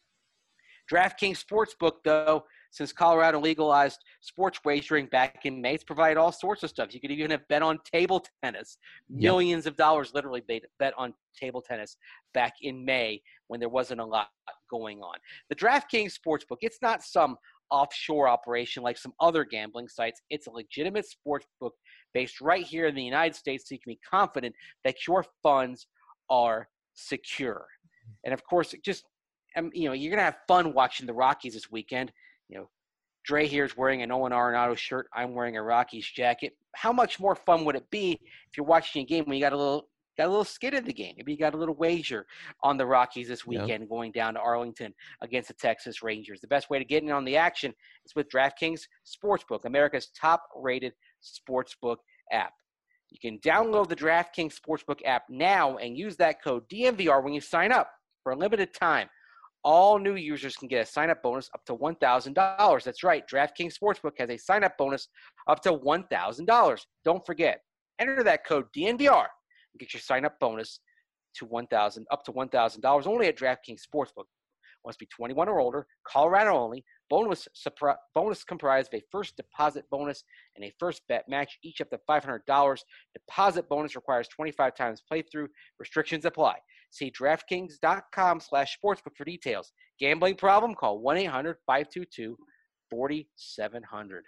DraftKings Sportsbook, though, since Colorado legalized sports wagering back in May, it's provided all sorts of stuff. You could even have bet on table tennis. Millions yep. of dollars literally bet on table tennis back in May when there wasn't a lot going on. The DraftKings Sportsbook, it's not some offshore operation like some other gambling sites. It's a legitimate sportsbook based right here in the United States, so you can be confident that your funds are secure. And, of course, just um, you know, you're going to have fun watching the Rockies this weekend. You know, Dre here is wearing an Owen Arenado shirt. I'm wearing a Rockies jacket. How much more fun would it be if you're watching a game when you got a little got a little skid in the game? Maybe you got a little wager on the Rockies this weekend, yeah. going down to Arlington against the Texas Rangers. The best way to get in on the action is with DraftKings Sportsbook, America's top-rated sportsbook app. You can download the DraftKings Sportsbook app now and use that code D N V R when you sign up for a limited time. All new users can get a sign-up bonus up to one thousand dollars. That's right. DraftKings Sportsbook has a sign-up bonus up to one thousand dollars. Don't forget, enter that code D N V R and get your sign-up bonus to one thousand dollars, up to one thousand dollars only at DraftKings Sportsbook. Must be twenty-one or older, Colorado only. Bonus supri- bonus comprised of a first deposit bonus and a first bet match, each up to five hundred dollars. Deposit bonus requires twenty-five times playthrough. Restrictions apply. See DraftKings.com slash sportsbook for details. Gambling problem? Call one eight hundred five two two four seven zero zero.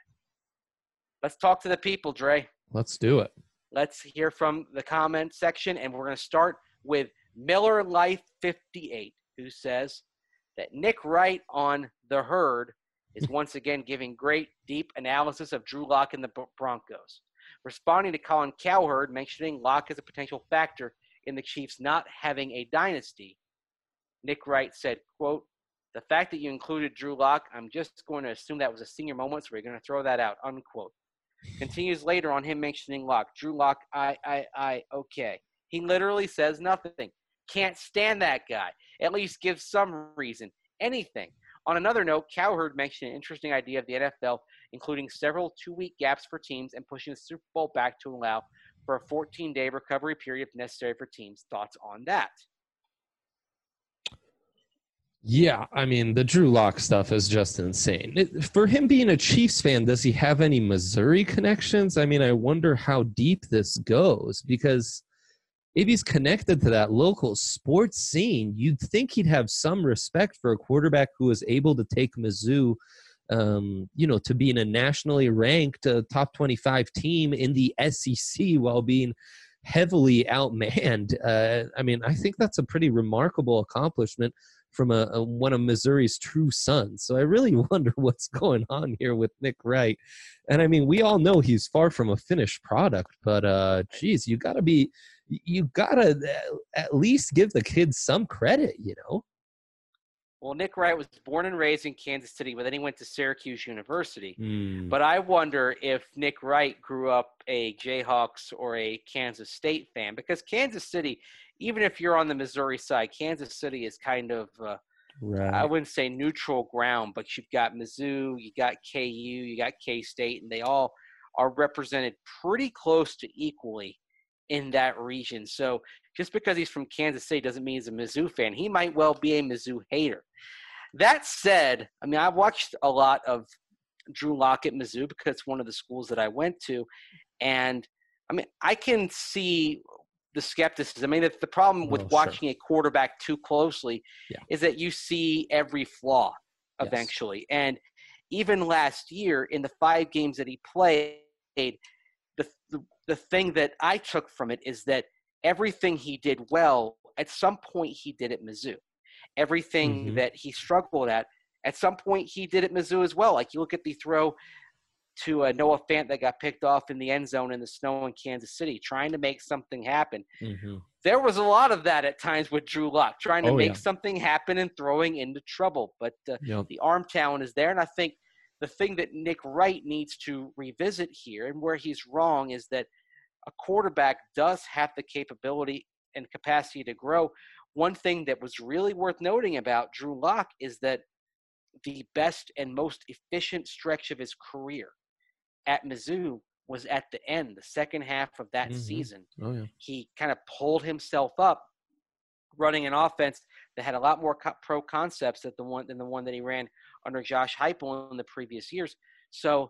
Let's talk to the people, Dre. Let's do it. Let's hear from the comment section, and we're going to start with Miller Life fifty-eight, who says that Nick Wright on The Herd is once again giving great, deep analysis of Drew Lock and the Broncos. Responding to Colin Cowherd, mentioning Lock as a potential factor in the Chiefs not having a dynasty, Nick Wright said, quote, "The fact that you included Drew Lock, I'm just going to assume that was a senior moment, so we're going to throw that out," unquote. Continues later on him mentioning Lock. Drew Lock, I, I, I, okay. He literally says nothing. Can't stand that guy. At least give some reason. Anything. On another note, Cowherd mentioned an interesting idea of the N F L, including several two-week gaps for teams and pushing the Super Bowl back to allow for a fourteen-day recovery period if necessary for teams. Thoughts on that? Yeah, I mean, the Drew Lock stuff is just insane. It, for him being a Chiefs fan, does he have any Missouri connections? I mean, I wonder how deep this goes, because if he's connected to that local sports scene, you'd think he'd have some respect for a quarterback who was able to take Mizzou, um, you know, to being a nationally ranked uh, top twenty-five team in the S E C while being heavily outmanned. Uh, I mean, I think that's a pretty remarkable accomplishment from a, a one of Missouri's true sons. So I really wonder what's going on here with Nick Wright. And I mean, we all know he's far from a finished product, but uh, geez, you gotta be, you gotta at least give the kids some credit, you know? Well, Nick Wright was born and raised in Kansas City, but then he went to Syracuse University. Mm. But I wonder if Nick Wright grew up a Jayhawks or a Kansas State fan, because Kansas City, even if you're on the Missouri side, Kansas City is kind of, uh, Right. I wouldn't say neutral ground, but you've got Mizzou, you got K U, you got K-State, and they all are represented pretty close to equally in that region. So just because he's from Kansas City doesn't mean he's a Mizzou fan. He might well be a Mizzou hater. That said, I mean, I've watched a lot of Drew Lock at Mizzou because it's one of the schools that I went to. And, I mean, I can see the skepticism. I mean, the problem with Oh, watching sure. a quarterback too closely Yeah. is that you see every flaw Yes. eventually. And even last year, in the five games that he played, the, the, the thing that I took from it is that everything he did well, at some point he did at Mizzou. Everything Mhm. that he struggled at, at some point he did at Mizzou as well. Like you look at the throw to uh, Noah Fant that got picked off in the end zone in the snow in Kansas City, trying to make something happen. Mhm. There was a lot of that at times with Drew Lock, trying to Oh, make yeah. something happen and throwing into trouble. But uh, Yep. the arm talent is there, and I think the thing that Nick Wright needs to revisit here, and where he's wrong, is that a quarterback does have the capability and capacity to grow. One thing that was really worth noting about Drew Lock is that the best and most efficient stretch of his career at Mizzou was at the end, the second half of that Mhm. season. Oh, yeah. He kind of pulled himself up running an offense that had a lot more co- pro concepts than the one than the one that he ran under Josh Heupel in the previous years. So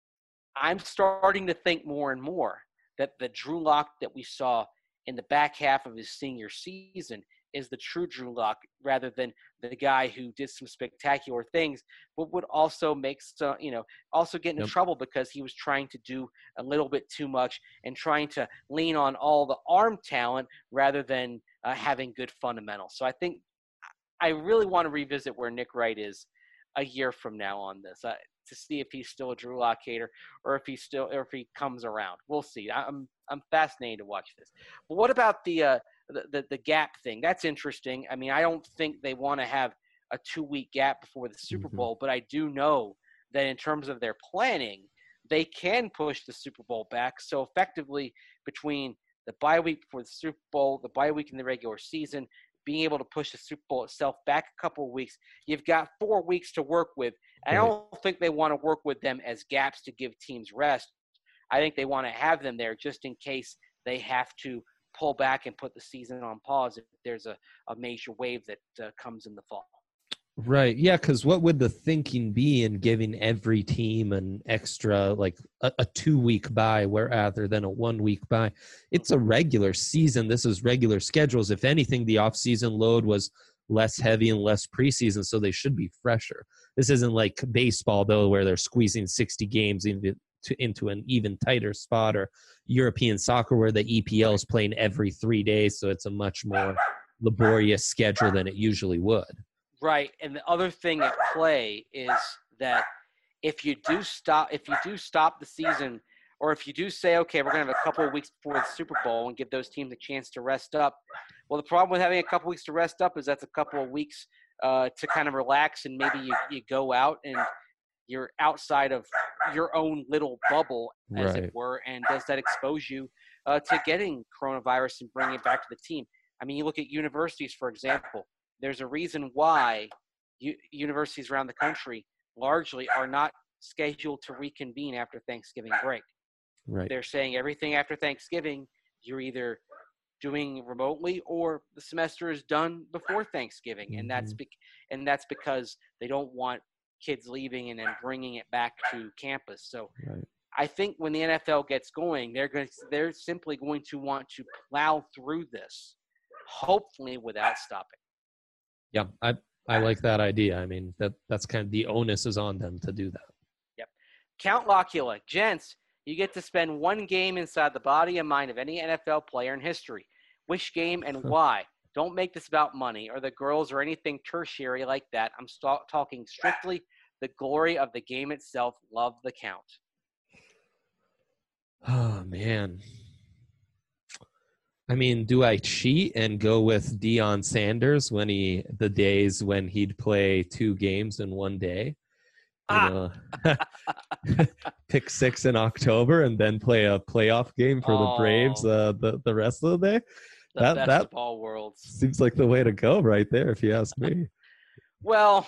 I'm starting to think more and more that the Drew Lock that we saw in the back half of his senior season is the true Drew Lock, rather than the guy who did some spectacular things, but would also make some, you know, also get into Yep. trouble because he was trying to do a little bit too much and trying to lean on all the arm talent rather than uh, having good fundamentals. So I think I really want to revisit where Nick Wright is a year from now on this uh, to see if he's still a Drew Lock hater or if he's still, or if he comes around. We'll see. I'm I'm fascinated to watch this. But what about the uh, the, the the gap thing? That's interesting. I mean, I don't think they want to have a two week gap before the Super Mhm. Bowl, but I do know that in terms of their planning, they can push the Super Bowl back. So effectively, between the bye week before the Super Bowl, the bye week in the regular season, being able to push the Super Bowl itself back a couple of weeks, you've got four weeks to work with. And I Right. don't think they want to work with them as gaps to give teams rest. I think they want to have them there just in case they have to pull back and put the season on pause if there's a, a major wave that uh, comes in the fall. Right. Yeah. Because what would the thinking be in giving every team an extra, like a, a two week bye, where rather than a one week bye? It's a regular season. This is regular schedules. If anything, the off season load was less heavy and less preseason, so they should be fresher. This isn't like baseball, though, where they're squeezing sixty games into, to, into an even tighter spot, or European soccer where the E P L is playing every three days, so it's a much more laborious schedule than it usually would. Right. And the other thing at play is that if you do stop, if you do stop the season, or if you do say, okay, we're going to have a couple of weeks before the Super Bowl and give those teams a chance to rest up. Well, the problem with having a couple of weeks to rest up is that's a couple of weeks uh, to kind of relax, and maybe you, you go out and you're outside of your own little bubble, as Right. it were. And does that expose you uh, to getting coronavirus and bringing it back to the team? I mean, you look at universities, for example. There's a reason why u- universities around the country largely are not scheduled to reconvene after Thanksgiving break. Right. They're saying everything after Thanksgiving, you're either doing remotely or the semester is done before Thanksgiving. And that's Mhm. be- and that's because they don't want kids leaving and then bringing it back to campus. So Right. I think when the N F L gets going, they're going to, they're simply going to want to plow through this, hopefully without stopping. Yeah, I I like that idea. I mean, that that's kind of the onus is on them to do that. Count Locula. Gents, you get to spend one game inside the body and mind of any N F L player in history. Which game and why? Don't make this about money or the girls or anything tertiary like that. I'm st- talking strictly the glory of the game itself. Love the count. Oh, man. I mean, do I cheat and go with Deion Sanders when he the days when he'd play two games in one day? You Ah. know, pick six in October and then play a playoff game for oh, the Braves uh, the the rest of the day. The that best that of all worlds. Seems like the way to go right there, if you ask me. Well,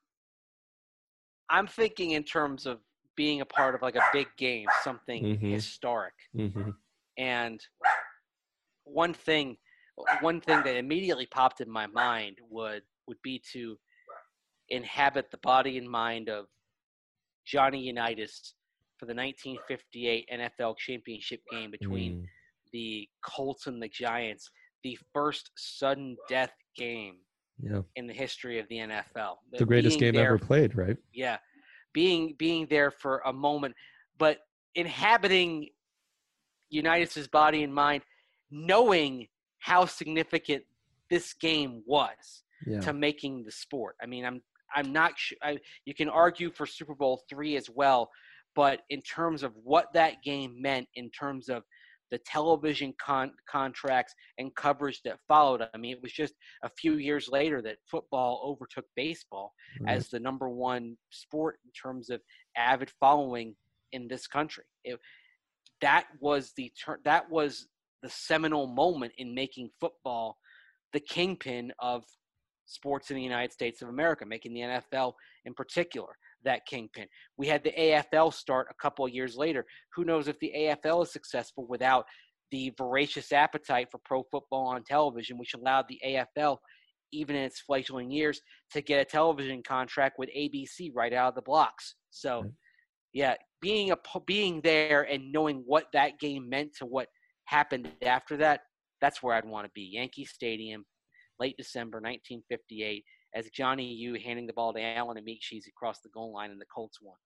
I'm thinking in terms of being a part of like a big game, something mm-hmm. historic. Mm-hmm. And one thing, one thing that immediately popped in my mind would would be to inhabit the body and mind of Johnny Unitas for the nineteen fifty-eight N F L championship game between mm. the Colts and the Giants, the first sudden death game yeah. in the history of the N F L. The, the greatest game there, ever played, right? Yeah. Being being there for a moment, but inhabiting Unitas' body and mind, knowing how significant this game was yeah. to making the sport. I mean, I'm I'm not sure. I, you can argue for Super Bowl three as well, but in terms of what that game meant, in terms of the television con- contracts and coverage that followed, I mean, it was just a few years later that football overtook baseball right. as the number one sport in terms of avid following in this country. It, that was the ter- that was the seminal moment in making football the kingpin of sports in the United States of America, making the N F L in particular that kingpin. We had the A F L start a couple of years later. Who knows if the A F L is successful without the voracious appetite for pro football on television, which allowed the A F L, even in its fledgling years, to get a television contract with A B C right out of the blocks. So, right. yeah, being a being there and knowing what that game meant to what happened after that, that's where I'd want to be. Yankee Stadium, late December nineteen fifty-eight, as Johnny U handing the ball to Allen Amichis across the goal line, and the Colts won.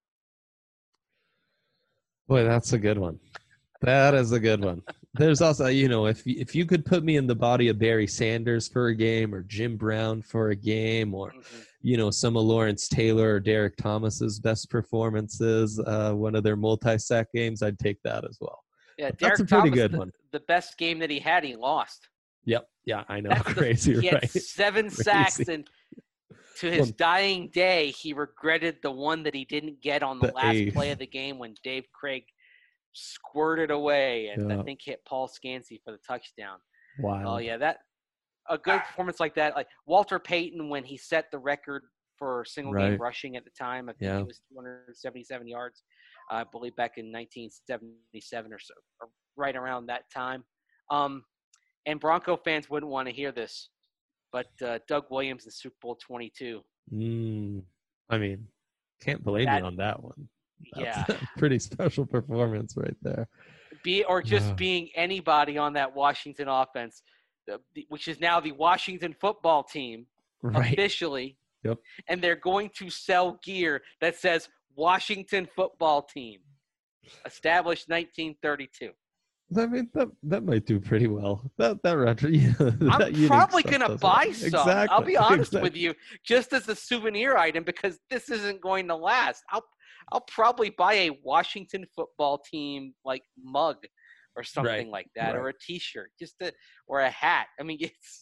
Boy, that's a good one. That is a good one. There's also, you know, if if you could put me in the body of Barry Sanders for a game, or Jim Brown for a game, or mm-hmm. you know, some of Lawrence Taylor or Derek Thomas's best performances, uh, one of their multi-sack games, I'd take that as well. Yeah, but Derek that's a pretty Thomas, good the, one. The best game that he had, he lost. Yep. Yeah, I know. That's Crazy, the, he right? He had seven Crazy. sacks, and to his well, dying day, he regretted the one that he didn't get on the, the last eighth. play of the game when Dave Craig squirted away and yeah. I think hit Paul Scansey for the touchdown. Wow. Oh yeah, that a good performance like that. Like Walter Payton when he set the record for single right. game rushing at the time. I think yeah. it was two hundred seventy-seven yards. Uh, I believe back in nineteen seventy-seven or so, or right around that time. Um, and Bronco fans wouldn't want to hear this, but uh, Doug Williams in Super Bowl twenty-two. Mm, I mean, can't blame that, you on that one. That's yeah, a pretty special performance right there. Be or just yeah. being anybody on that Washington offense, which is now the Washington football team right. officially. Yep. And they're going to sell gear that says Washington football team, established nineteen thirty-two. I mean, that that might do pretty well. That that retro. Yeah, I'm that probably gonna buy well. some. Exactly. I'll be honest exactly. with you, just as a souvenir item, because this isn't going to last. I'll I'll probably buy a Washington football team like mug or something right. like that, right. or a T-shirt, just to, or a hat. I mean, it's.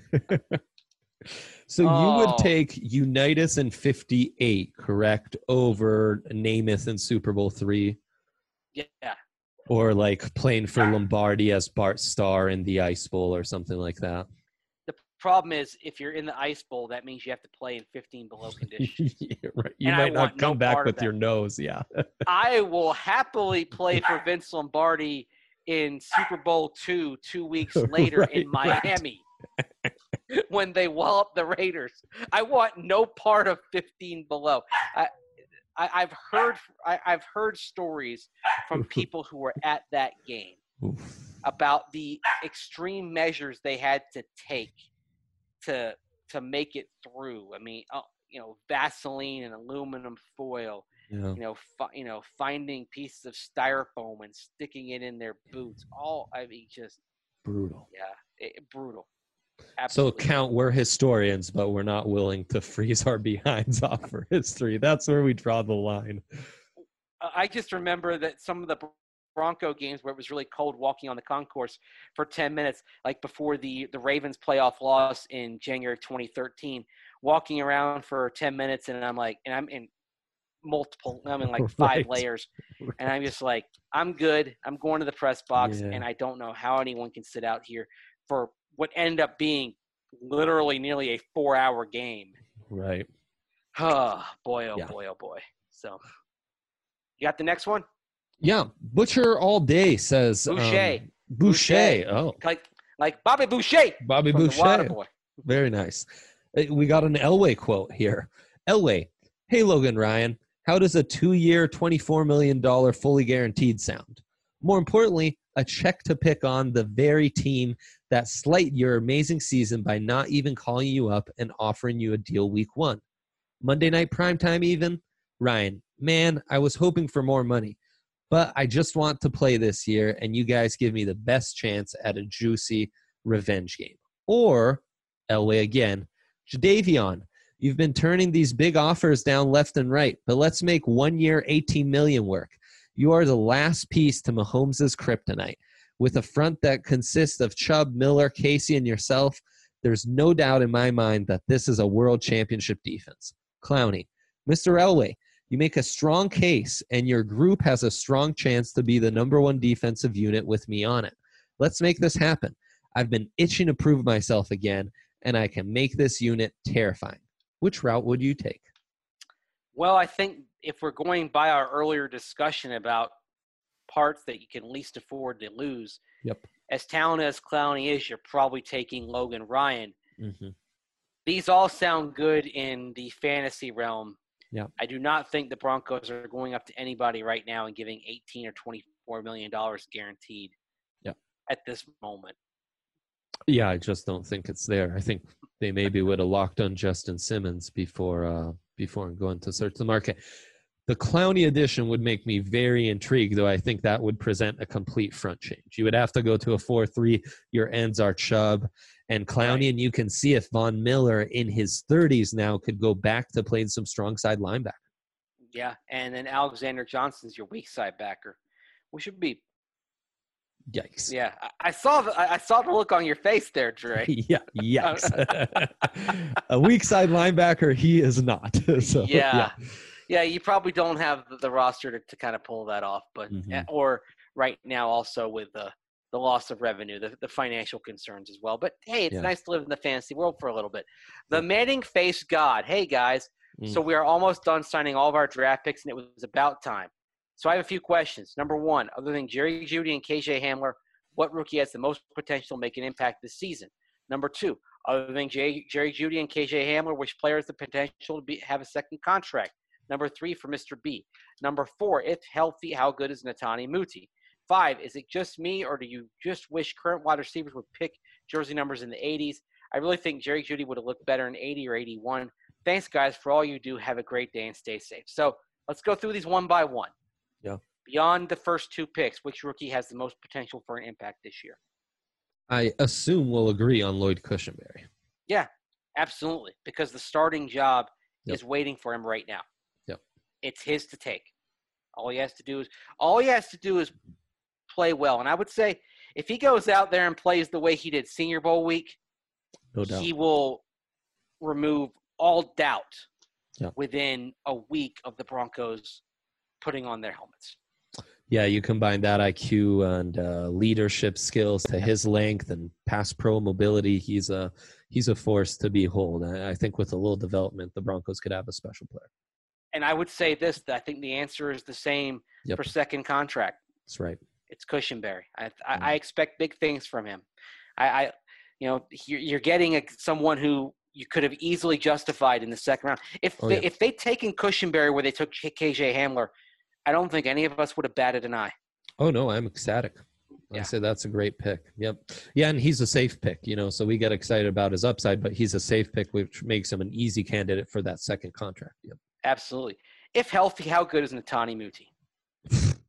So oh. you would take Unitas in fifty-eight, correct, over Namath in Super Bowl three? Yeah. Or like playing for Lombardi as Bart Starr in the Ice Bowl or something like that. The problem is, if you're in the Ice Bowl, that means you have to play in fifteen below conditions. yeah, right. You and might I not come no back with your nose, yeah. I will happily play for Vince Lombardi in Super Bowl two, two weeks later right, in Miami right. when they wallop the Raiders. I want no part of fifteen below. I, I, I've heard I, I've heard stories from people who were at that game Oof. about the extreme measures they had to take to to make it through. I mean, uh, you know, Vaseline and aluminum foil. Yeah. You know, fi- you know, finding pieces of styrofoam and sticking it in their boots. All I mean, just brutal. Yeah, it, brutal. Absolutely. So count, we're historians, but we're not willing to freeze our behinds off for history. That's where we draw the line. I just remember that some of the Bronco games where it was really cold walking on the concourse for ten minutes, like before the, the Ravens playoff loss in January of twenty thirteen, walking around for ten minutes, and I'm like, and I'm in multiple, I'm in like five Right. layers, and I'm just like, I'm good. I'm going to the press box, Yeah. and I don't know how anyone can sit out here for what ended up being literally nearly a four-hour game. Right. Oh, boy, oh, Yeah. boy, oh, boy. So, you got the next one? Yeah. Butcher all day says Boucher. Um, Boucher. Boucher. Oh, Like like Bobby Boucher Bobby from Boucher. the Waterboy. Very nice. Uh, We got an Elway quote here. Elway, hey, Logan Ryan, how does a two-year, twenty-four million dollars fully guaranteed sound? More importantly, a check to pick on the very team that slighted your amazing season by not even calling you up and offering you a deal week one. Monday night primetime even? Ryan, man, I was hoping for more money, but I just want to play this year, and you guys give me the best chance at a juicy revenge game. Or, Elway again, Jadeveon, you've been turning these big offers down left and right, but let's make one year eighteen million dollars work. You are the last piece to Mahomes' kryptonite. With a front that consists of Chubb, Miller, Casey, and yourself, there's no doubt in my mind that this is a world championship defense. Clowney, Mister Elway, you make a strong case, and your group has a strong chance to be the number one defensive unit with me on it. Let's make this happen. I've been itching to prove myself again, and I can make this unit terrifying. Which route would you take? Well, I think if we're going by our earlier discussion about parts that you can least afford to lose, Yep. as talented as Clowney is, you're probably taking Logan Ryan. Mm-hmm. These all sound good in the fantasy realm. Yeah. I do not think the Broncos are going up to anybody right now and giving eighteen or twenty-four million dollars guaranteed. Yeah. At this moment. Yeah, I just don't think it's there. I think they maybe would have locked on Justin Simmons before uh, before going to search the market. The Clowney edition would make me very intrigued, though I think that would present a complete front change. You would have to go to a four three. Your ends are Chubb and Clowney, Right. and you can see if Von Miller in his thirties now could go back to playing some strong side linebacker. Yeah, and then Alexander Johnson's your weak side backer, which would be Yikes. yeah. I, I saw the I I saw the look on your face there, Dre. Yeah, yikes. A weak side linebacker, he is not. So, yeah. yeah, You probably don't have the, the roster to, to kind of pull that off, but Mhm. or right now also with the the loss of revenue, the, the financial concerns as well. But hey, it's Yeah. nice to live in the fantasy world for a little bit. The Manning face God. Hey guys, Mm. so we are almost done signing all of our draft picks, and it was about time. So I have a few questions. Number one, other than Jerry Jeudy and K J Hamler, what rookie has the most potential to make an impact this season? Number two, other than J- Jerry Jeudy and K J Hamler, which player has the potential to be, have a second contract? Number three for Mister B. Number four, if healthy, how good is Netani Muti? Five, is it just me, or do you just wish current wide receivers would pick jersey numbers in the eighties? I really think Jerry Jeudy would have looked better in eighty or eighty-one. Thanks, guys, for all you do. Have a great day and stay safe. So let's go through these one by one. Yeah. Beyond the first two picks, which rookie has the most potential for an impact this year? I assume we'll agree on Lloyd Cushenberry. Yeah, absolutely, because the starting job Yep. is waiting for him right now. Yep. It's his to take. All he has to do is all he has to do is play well. And I would say if he goes out there and plays the way he did Senior Bowl week, No doubt. he will remove all doubt Yep. within a week of the Broncos putting on their helmets. Yeah, you combine that I Q and uh, leadership skills to his length and pass pro mobility. He's a he's a force to behold. I, I think with a little development, the Broncos could have a special player. And I would say this, that I think the answer is the same Yep. for second contract. That's right. It's Cushenberry. I, I, Mm. I expect big things from him. I, I you know, you're, you're getting a, someone who you could have easily justified in the second round. If Oh, they, yeah. if they'd taken Cushenberry where they took K J Hamler, I don't think any of us would have batted an eye. Oh, no, I'm ecstatic. I Yeah. say that's a great pick. Yep. Yeah, and he's a safe pick, you know, so we get excited about his upside, but he's a safe pick, which makes him an easy candidate for that second contract. Yep. Absolutely. If healthy, how good is Netani Muti?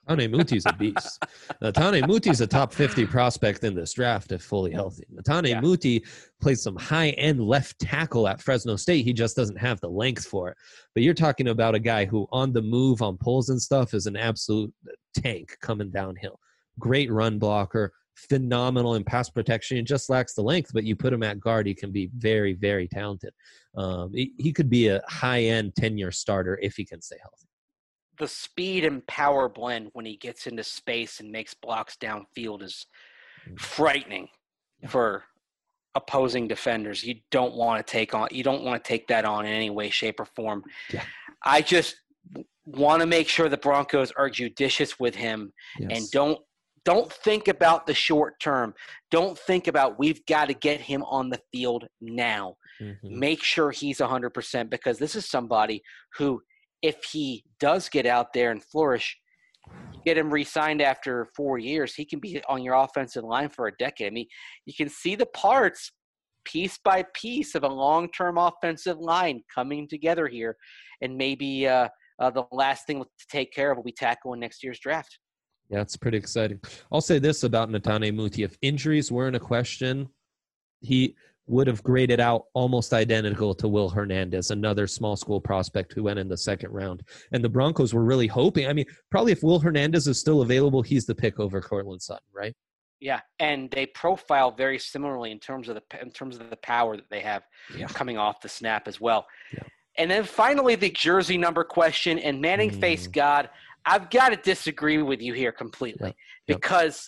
Natane Muti's a beast. Natane Muti's a top fifty prospect in this draft if fully healthy. Natane Yeah. Muti plays some high-end left tackle at Fresno State. He just doesn't have the length for it. But you're talking about a guy who on the move on pulls and stuff is an absolute tank coming downhill. Great run blocker, phenomenal in pass protection. He just lacks the length, but you put him at guard, he can be very, very talented. Um, he, he could be a high-end ten-year starter if he can stay healthy. The speed and power blend when he gets into space and makes blocks downfield is frightening for opposing defenders. You don't want to take on you don't want to take that on in any way, shape, or form. Yeah. I just want to make sure the Broncos are judicious with him Yes. and don't don't think about the short term. Don't think about we've got to get him on the field now. Mhm. Make sure he's one hundred percent because this is somebody who, if he does get out there and flourish, get him re-signed after four years, he can be on your offensive line for a decade. I mean, you can see the parts piece by piece of a long-term offensive line coming together here, and maybe uh, uh, the last thing to take care of will be tackle in next year's draft. Yeah, it's pretty exciting. I'll say this about Natane Muti. If injuries weren't a question, he would have graded out almost identical to Will Hernandez, another small school prospect who went in the second round. And the Broncos were really hoping. I mean, probably if Will Hernandez is still available, he's the pick over Cortland Sutton, right? Yeah, and they profile very similarly in terms of the in terms of the power that they have Yeah. coming off the snap as well. Yeah. And then finally, the jersey number question. And Manning Mm. Face God, I've got to disagree with you here completely Yep. Yep. because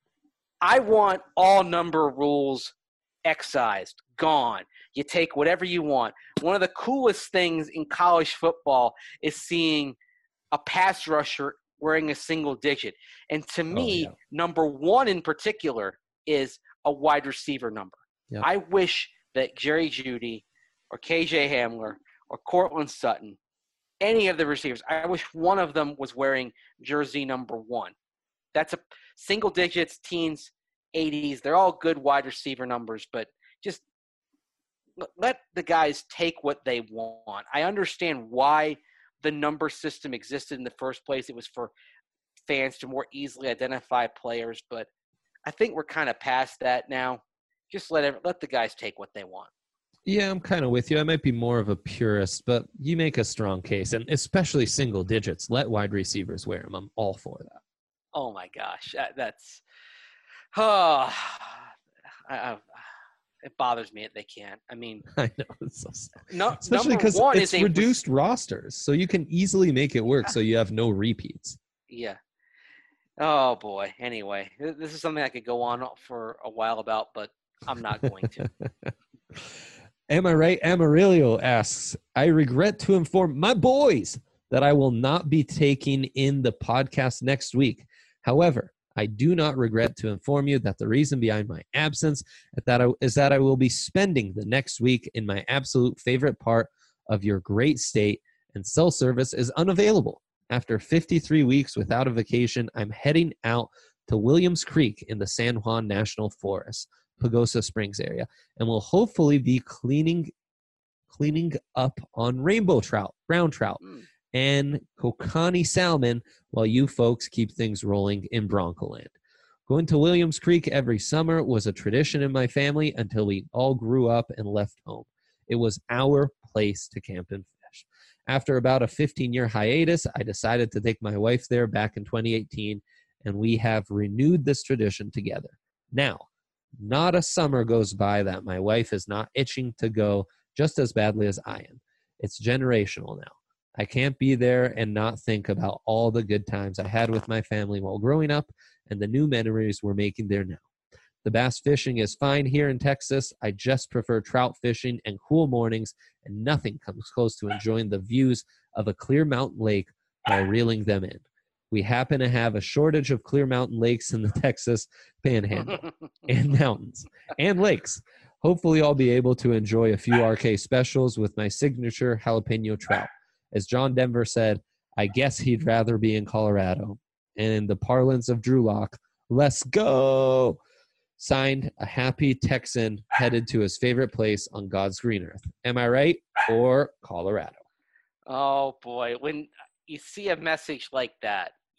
I want all number rules excised, gone. You take whatever you want. One of the coolest things in college football is seeing a pass rusher wearing a single digit. And to me, yeah. number one in particular is a wide receiver number. Yep. I wish that Jerry Jeudy or K J Hamler or Cortland Sutton, any of the receivers, I wish one of them was wearing jersey number one. That's a single digits, teens, eighties. They're all good wide receiver numbers, but just let the guys take what they want. I understand why the number system existed in the first place. It was for fans to more easily identify players, but I think we're kind of past that now. Just let every, let the guys take what they want. Yeah, I'm kind of with you. I might be more of a purist, but you make a strong case, and especially single digits. Let wide receivers wear them. I'm all for that. Oh, my gosh. That, that's oh, – I, I, it bothers me that they can't. I mean – I know. It's so sad. no, Especially number because one it's is a, reduced rosters, so you can easily make it work so you have no repeats. Yeah. Oh, boy. Anyway, this is something I could go on for a while about, but I'm not going to. Am I right? Amarillo asks, I regret to inform my boys that I will not be taking in the podcast next week. However, I do not regret to inform you that the reason behind my absence is that I, is that I will be spending the next week in my absolute favorite part of your great state, and cell service is unavailable. After fifty-three weeks without a vacation, I'm heading out to Williams Creek in the San Juan National Forest, Pagosa Springs area, and will hopefully be cleaning cleaning up on rainbow trout, brown trout, Mm. and kokanee salmon while you folks keep things rolling in Broncoland. Going to Williams Creek every summer was a tradition in my family until we all grew up and left home. It was our place to camp and fish. After about a fifteen-year hiatus, I decided to take my wife there back in twenty eighteen, and we have renewed this tradition together. Now, not a summer goes by that my wife is not itching to go just as badly as I am. It's generational now. I can't be there and not think about all the good times I had with my family while growing up and the new memories we're making there now. The bass fishing is fine here in Texas. I just prefer trout fishing and cool mornings, and nothing comes close to enjoying the views of a clear mountain lake while reeling them in. We happen to have a shortage of clear mountain lakes in the Texas Panhandle and mountains and lakes. Hopefully I'll be able to enjoy a few R K specials with my signature jalapeno trout. As John Denver said, I guess he'd rather be in Colorado. And in the parlance of Drew Lock, let's go. Signed, a happy Texan headed to his favorite place on God's green earth. Am I right? Or Colorado? Oh, boy. When you see a message like that,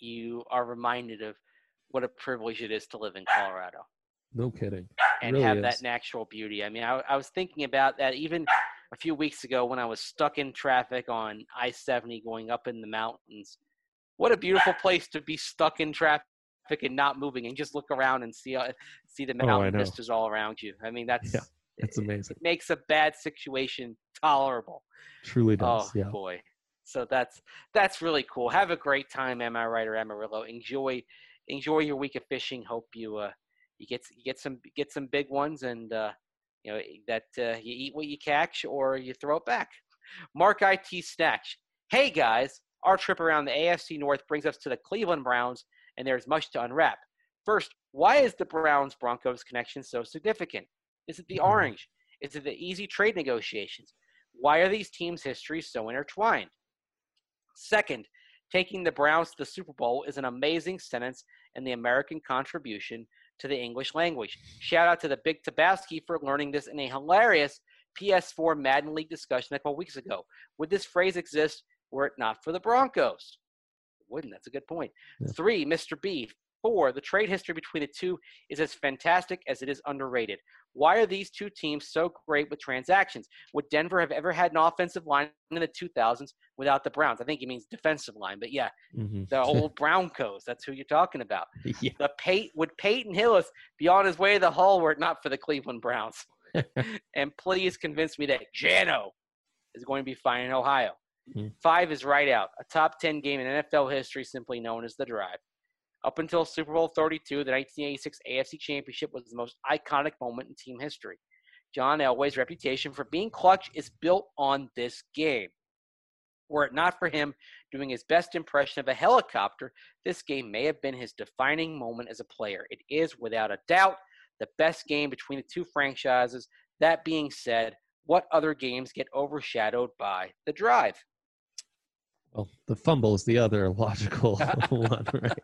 you are reminded of what a privilege it is to live in Colorado. No kidding. And really have is. that natural beauty. I mean, I, I was thinking about that even a few weeks ago when I was stuck in traffic on I seventy going up in the mountains. What a beautiful place to be stuck in traffic and not moving and just look around and see uh, see the Oh, I mountain know. vistas all around you. I mean, that's Yeah, it's amazing. It makes a bad situation tolerable. Truly does. Oh yeah. boy. So that's that's really cool. Have a great time, Am I Right or Amarillo. Enjoy enjoy your week of fishing. Hope you uh you get you get some get some big ones, and uh you know that uh, you eat what you catch or you throw it back. Mark I T Snatch. Hey guys, our trip around the A F C North brings us to the Cleveland Browns, and there's much to unwrap. First, why is the Browns Broncos connection so significant? Is it the orange? Is it the easy trade negotiations? Why are these teams' histories so intertwined? Second, taking the Browns to the Super Bowl is an amazing sentence in the American contribution to the English language. Shout out to the Big Tabasky for learning this in a hilarious P S four Madden League discussion a couple weeks ago. Would this phrase exist were it not for the Broncos? Wouldn't. That's a good point. Yeah. Three, Mister B. Four, the trade history between the two is as fantastic as it is underrated. Why are these two teams so great with transactions? Would Denver have ever had an offensive line in the two thousands without the Browns? I think he means defensive line, but yeah, mm-hmm. the old Broncos, that's who you're talking about. Yeah. The Pey- would Peyton Hillis be on his way to the Hall were it not for the Cleveland Browns? And please convince me that Jano is going to be fine in Ohio. Mm-hmm. Five is right out. A top ten game in N F L history simply known as The Drive. Up until Super Bowl thirty-two, the nineteen eighty-six A F C Championship was the most iconic moment in team history. John Elway's reputation for being clutch is built on this game. Were it not for him doing his best impression of a helicopter, this game may have been his defining moment as a player. It is, without a doubt, the best game between the two franchises. That being said, what other games get overshadowed by The Drive? Well, the fumble is the other logical one, right?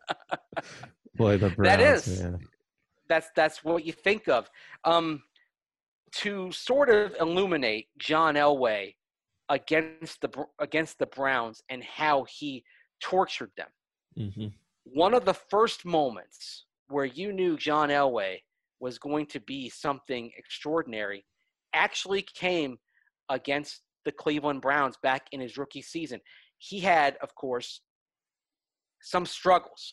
Boy, the Browns. That is. Yeah. That's that's what you think of. Um, to sort of illuminate John Elway against the against the Browns and how he tortured them. Mm-hmm. One of the first moments where you knew John Elway was going to be something extraordinary actually came against the Cleveland Browns back in his rookie season. He had, of course, some struggles.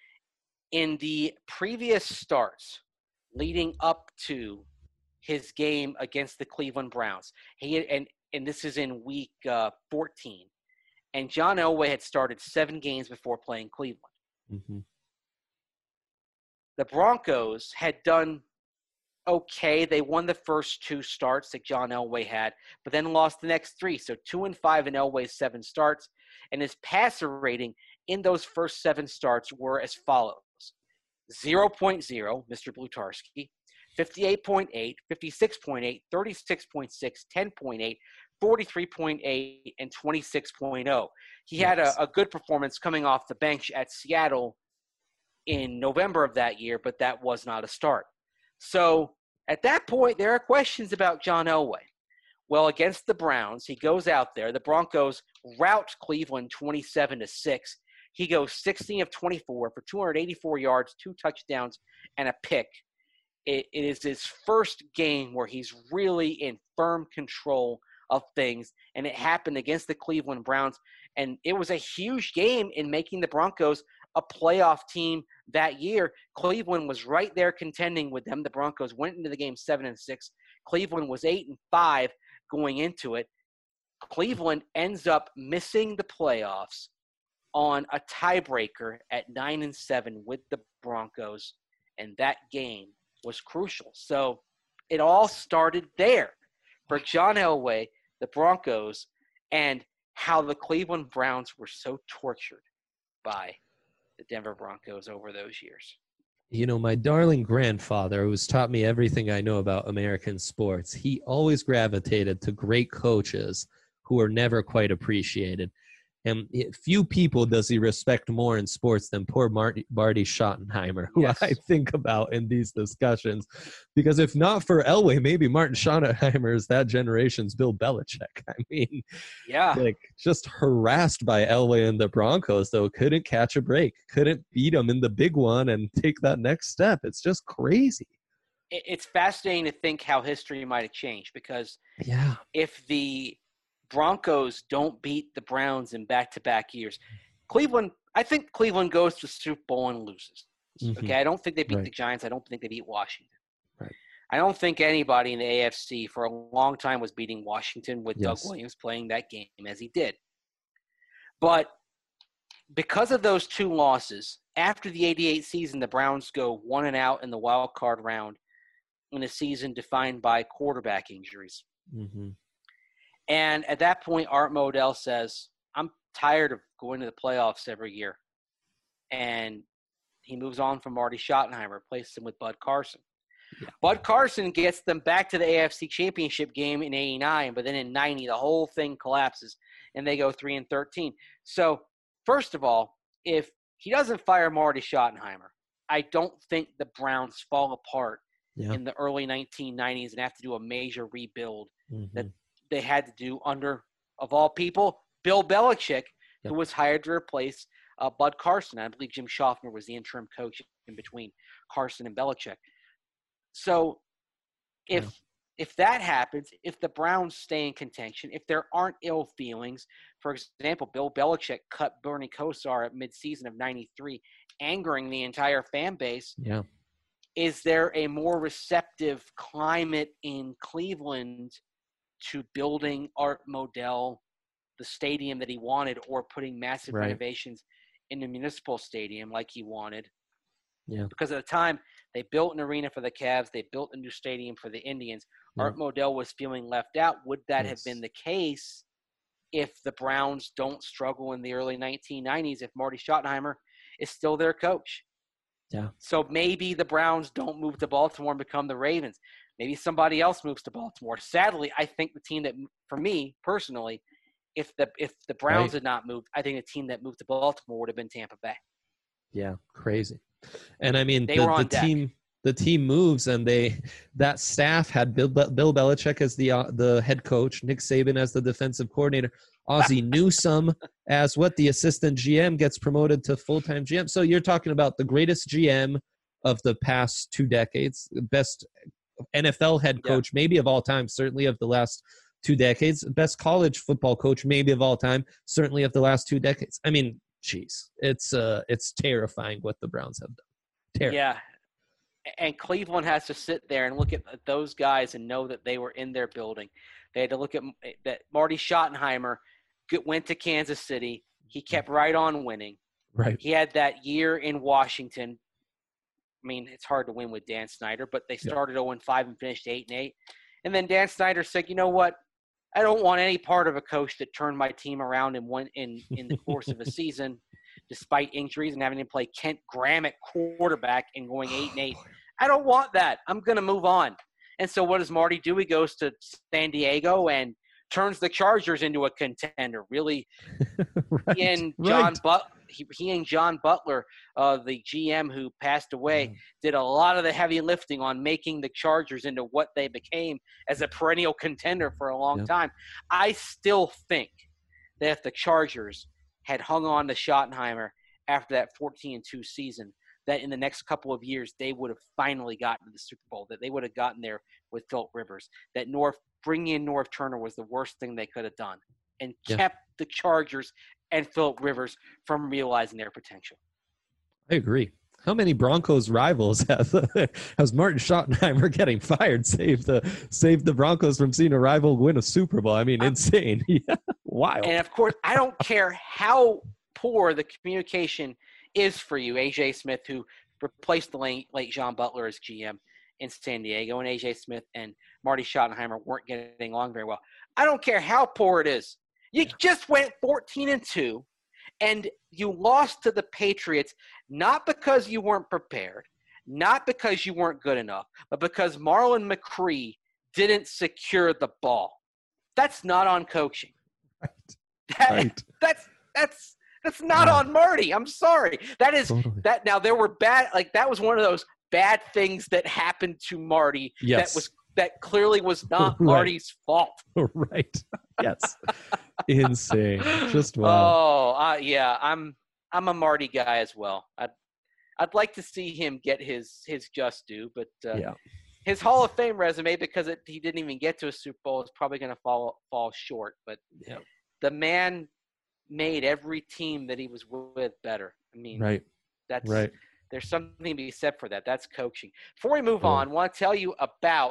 In the previous starts leading up to his game against the Cleveland Browns, he had, and, and this is in week uh, fourteen, and John Elway had started seven games before playing Cleveland. Mm-hmm. The Broncos had done okay. They won the first two starts that John Elway had, but then lost the next three. So two and five in Elway's seven starts, and his passer rating in those first seven starts were as follows: zero point zero, Mister Blutarski, fifty-eight point eight, fifty-six point eight, thirty-six point six, ten point eight, forty-three point eight, and twenty-six point oh. He yes. had a, a good performance coming off the bench at Seattle in November of that year, but that was not a start. So at that point, there are questions about John Elway. Well, against the Browns, he goes out there. The Broncos rout Cleveland twenty-seven to six. He goes sixteen of twenty-four for two hundred eighty-four yards, two touchdowns, and a pick. It, it is his first game where he's really in firm control of things, and it happened against the Cleveland Browns. And it was a huge game in making the Broncos a playoff team that year. Cleveland was right there contending with them. The Broncos went into the game seven and six. Cleveland was eight and five going into it. Cleveland ends up missing the playoffs on a tiebreaker at nine and seven with the Broncos, and that game was crucial. So it all started there for John Elway, the Broncos, and how the Cleveland Browns were so tortured by the Denver Broncos over those years. You know, my darling grandfather, who's taught me everything I know about American sports, he always gravitated to great coaches who are never quite appreciated. And it, few people does he respect more in sports than poor Marty, Marty Schottenheimer, who Yes. I think about in these discussions. Because if not for Elway, maybe Martin Schottenheimer is that generation's Bill Belichick. I mean, Yeah. like just harassed by Elway and the Broncos, though, couldn't catch a break, couldn't beat them in the big one and take that next step. It's just crazy. It- It's fascinating to think how history might have changed, because Yeah. if the Broncos don't beat the Browns in back-to-back years, Cleveland, I think Cleveland goes to the Super Bowl and loses. Mhm. Okay, I don't think they beat Right. the Giants. I don't think they beat Washington. Right. I don't think anybody in the A F C for a long time was beating Washington with Yes. Doug Williams playing that game as he did. But because of those two losses, after the eighty-eight season, the Browns go one and out in the wild card round in a season defined by quarterback injuries. Mm-hmm. And at that point, Art Modell says, I'm tired of going to the playoffs every year. And he moves on from Marty Schottenheimer, replaces him with Bud Carson. Yeah. Bud Carson gets them back to the A F C Championship game in eighty-nine, but then in ninety, the whole thing collapses, and they go three and thirteen. So, first of all, if he doesn't fire Marty Schottenheimer, I don't think the Browns fall apart Yeah. in the early nineteen nineties and have to do a major rebuild Mhm. that they had to do under, of all people, Bill Belichick, Yep. who was hired to replace uh, Bud Carson. I believe Jim Schaffner was the interim coach in between Carson and Belichick. So if Yeah. if that happens, if the Browns stay in contention, if there aren't ill feelings, for example, Bill Belichick cut Bernie Kosar at midseason of ninety-three, angering the entire fan base, Yeah. is there a more receptive climate in Cleveland to building Art Modell the stadium that he wanted, or putting massive Right. renovations in the municipal stadium like he wanted? Yeah. Because at the time, they built an arena for the Cavs. They built a new stadium for the Indians. Yeah. Art Modell was feeling left out. Would that have Yes. been the case if the Browns don't struggle in the early nineteen nineties, if Marty Schottenheimer is still their coach? Yeah. So maybe the Browns don't move to Baltimore and become the Ravens. Maybe somebody else moves to Baltimore. Sadly, I think the team that, for me personally, if the if the Browns Right. had not moved, I think the team that moved to Baltimore would have been Tampa Bay. Yeah, crazy. And I mean, They the, were on the deck. team, the team moves, and they that staff had Bill, Bill Belichick as the uh, the head coach, Nick Saban as the defensive coordinator, Ozzie Newsome as what the assistant G M, gets promoted to full time G M. So you're talking about the greatest G M of the past two decades, best N F L head Yeah. coach maybe of all time, certainly of the last two decades, best college football coach maybe of all time, certainly of the last two decades. I mean, geez, it's uh, it's terrifying what the Browns have done. Terrifying. Yeah. And Cleveland has to sit there and look at those guys and know that they were in their building. They had to look at that Marty Schottenheimer went to Kansas City. He kept right on winning. Right. He had that year in Washington. I mean, it's hard to win with Dan Snyder, but they started oh and five and finished eight and eight. And then Dan Snyder said, you know what? I don't want any part of a coach that turned my team around in one in, in the course of a season, despite injuries and having to play Kent Graham at quarterback and going eight and eight. I don't want that. I'm going to move on. And so what does Marty do? He goes to San Diego and turns the Chargers into a contender. Really, right. he and John right. But he, he and John Butler, uh, the G M who passed away, Mm. did a lot of the heavy lifting on making the Chargers into what they became as a perennial contender for a long Yep. time. I still think that if the Chargers had hung on to Schottenheimer after that fourteen and two season, that in the next couple of years they would have finally gotten to the Super Bowl, that they would have gotten there with Philip Rivers, that North bringing in North Turner was the worst thing they could have done, and Yeah. kept the Chargers and Philip Rivers from realizing their potential. I agree. How many Broncos rivals has, has Martin Schottenheimer getting fired saved the saved the Broncos from seeing a rival win a Super Bowl? I mean, insane. Yeah. Wild. And, of course, I don't care how poor the communication is for you, A J Smith, who replaced the late, late John Butler as G M in San Diego, and A J Smith and Marty Schottenheimer weren't getting along very well. I don't care how poor it is. You just went fourteen and two, and you lost to the Patriots not because you weren't prepared, not because you weren't good enough, but because Marlon McCree didn't secure the ball. That's not on coaching. Right. That, Right. That's That's that's not Wow. on Marty. I'm sorry. That is Totally. that. Now there were bad. Like that was one of those bad things that happened to Marty. Yes. That was that clearly was not Right. Marty's fault. Right. Yes. Insane. Just wow. Oh, uh, yeah. I'm I'm a Marty guy as well. I'd I'd like to see him get his his just due, but uh, Yeah. his Hall of Fame resume, because it, he didn't even get to a Super Bowl, is probably going to fall fall short. But Yeah. the man made every team that he was with better. I mean, Right. that's Right. there's something to be said for that. That's coaching. Before we move Yeah. on, I want to tell you about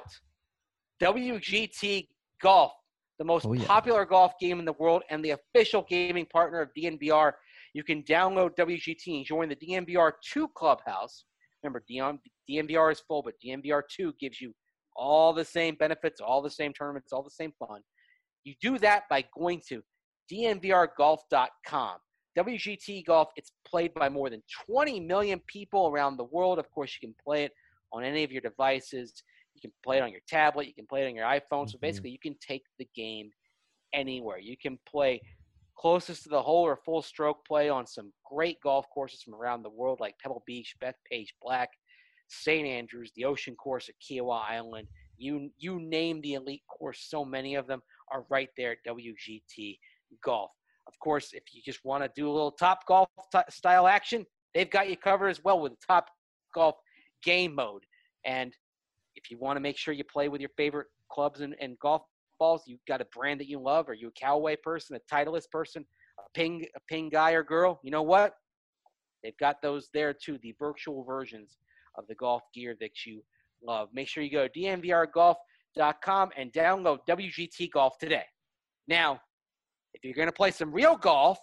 W G T Golf, the most Oh, yeah. popular golf game in the world and the official gaming partner of D N V R. You can download W G T and join the D N V R two Clubhouse. Remember, D N V R is full, but D N V R two gives you all the same benefits, all the same tournaments, all the same fun. You do that by going to D N V R golf dot com. W G T Golf, it's played by more than twenty million people around the world. Of course, you can play it on any of your devices. You can play it on your tablet. You can play it on your iPhone. So Mhm. basically, you can take the game anywhere. You can play closest to the hole or full stroke play on some great golf courses from around the world, like Pebble Beach, Bethpage Black, Saint Andrews, the Ocean Course at Kiowa Island. You you name the elite course, so many of them are right there at W G T Golf. Of course, if you just want to do a little Top Golf t- style action, they've got you covered as well with the Top Golf game mode. And if you want to make sure you play with your favorite clubs and, and golf balls, you've got a brand that you love, or you a Callaway person, a Titleist person, a ping, a ping guy or girl, you know what? They've got those there too, the virtual versions of the golf gear that you love. Make sure you go to D N V R golf dot com and download W G T Golf today. Now, if you're going to play some real golf,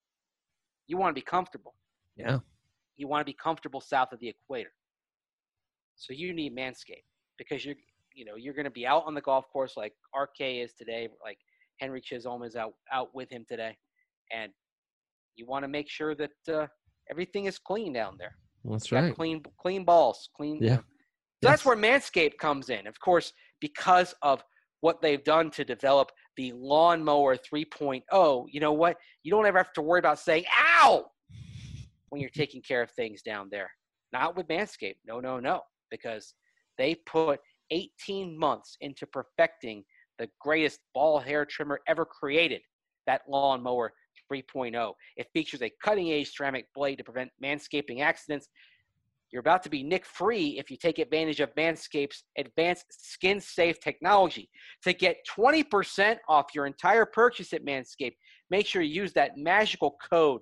you want to be comfortable. Yeah. You want to be comfortable south of the equator. So you need Manscaped, because you're, you know, you're going to be out on the golf course like R K is today, like Henry Chisholm is out, out with him today. And you want to make sure that uh, everything is clean down there. That's Got right. Clean, clean balls, clean. Yeah. So that's where Manscaped comes in. Of course, because of what they've done to develop the Lawnmower three point oh, you know what? You don't ever have to worry about saying, ow, when you're taking care of things down there. Not with Manscaped. No, no, no. Because they put eighteen months into perfecting the greatest ball hair trimmer ever created, that Lawnmower three point oh. It features a cutting-edge ceramic blade to prevent manscaping accidents. You're about to be nick-free if you take advantage of Manscaped's advanced skin-safe technology. To get twenty percent off your entire purchase at Manscaped, make sure you use that magical code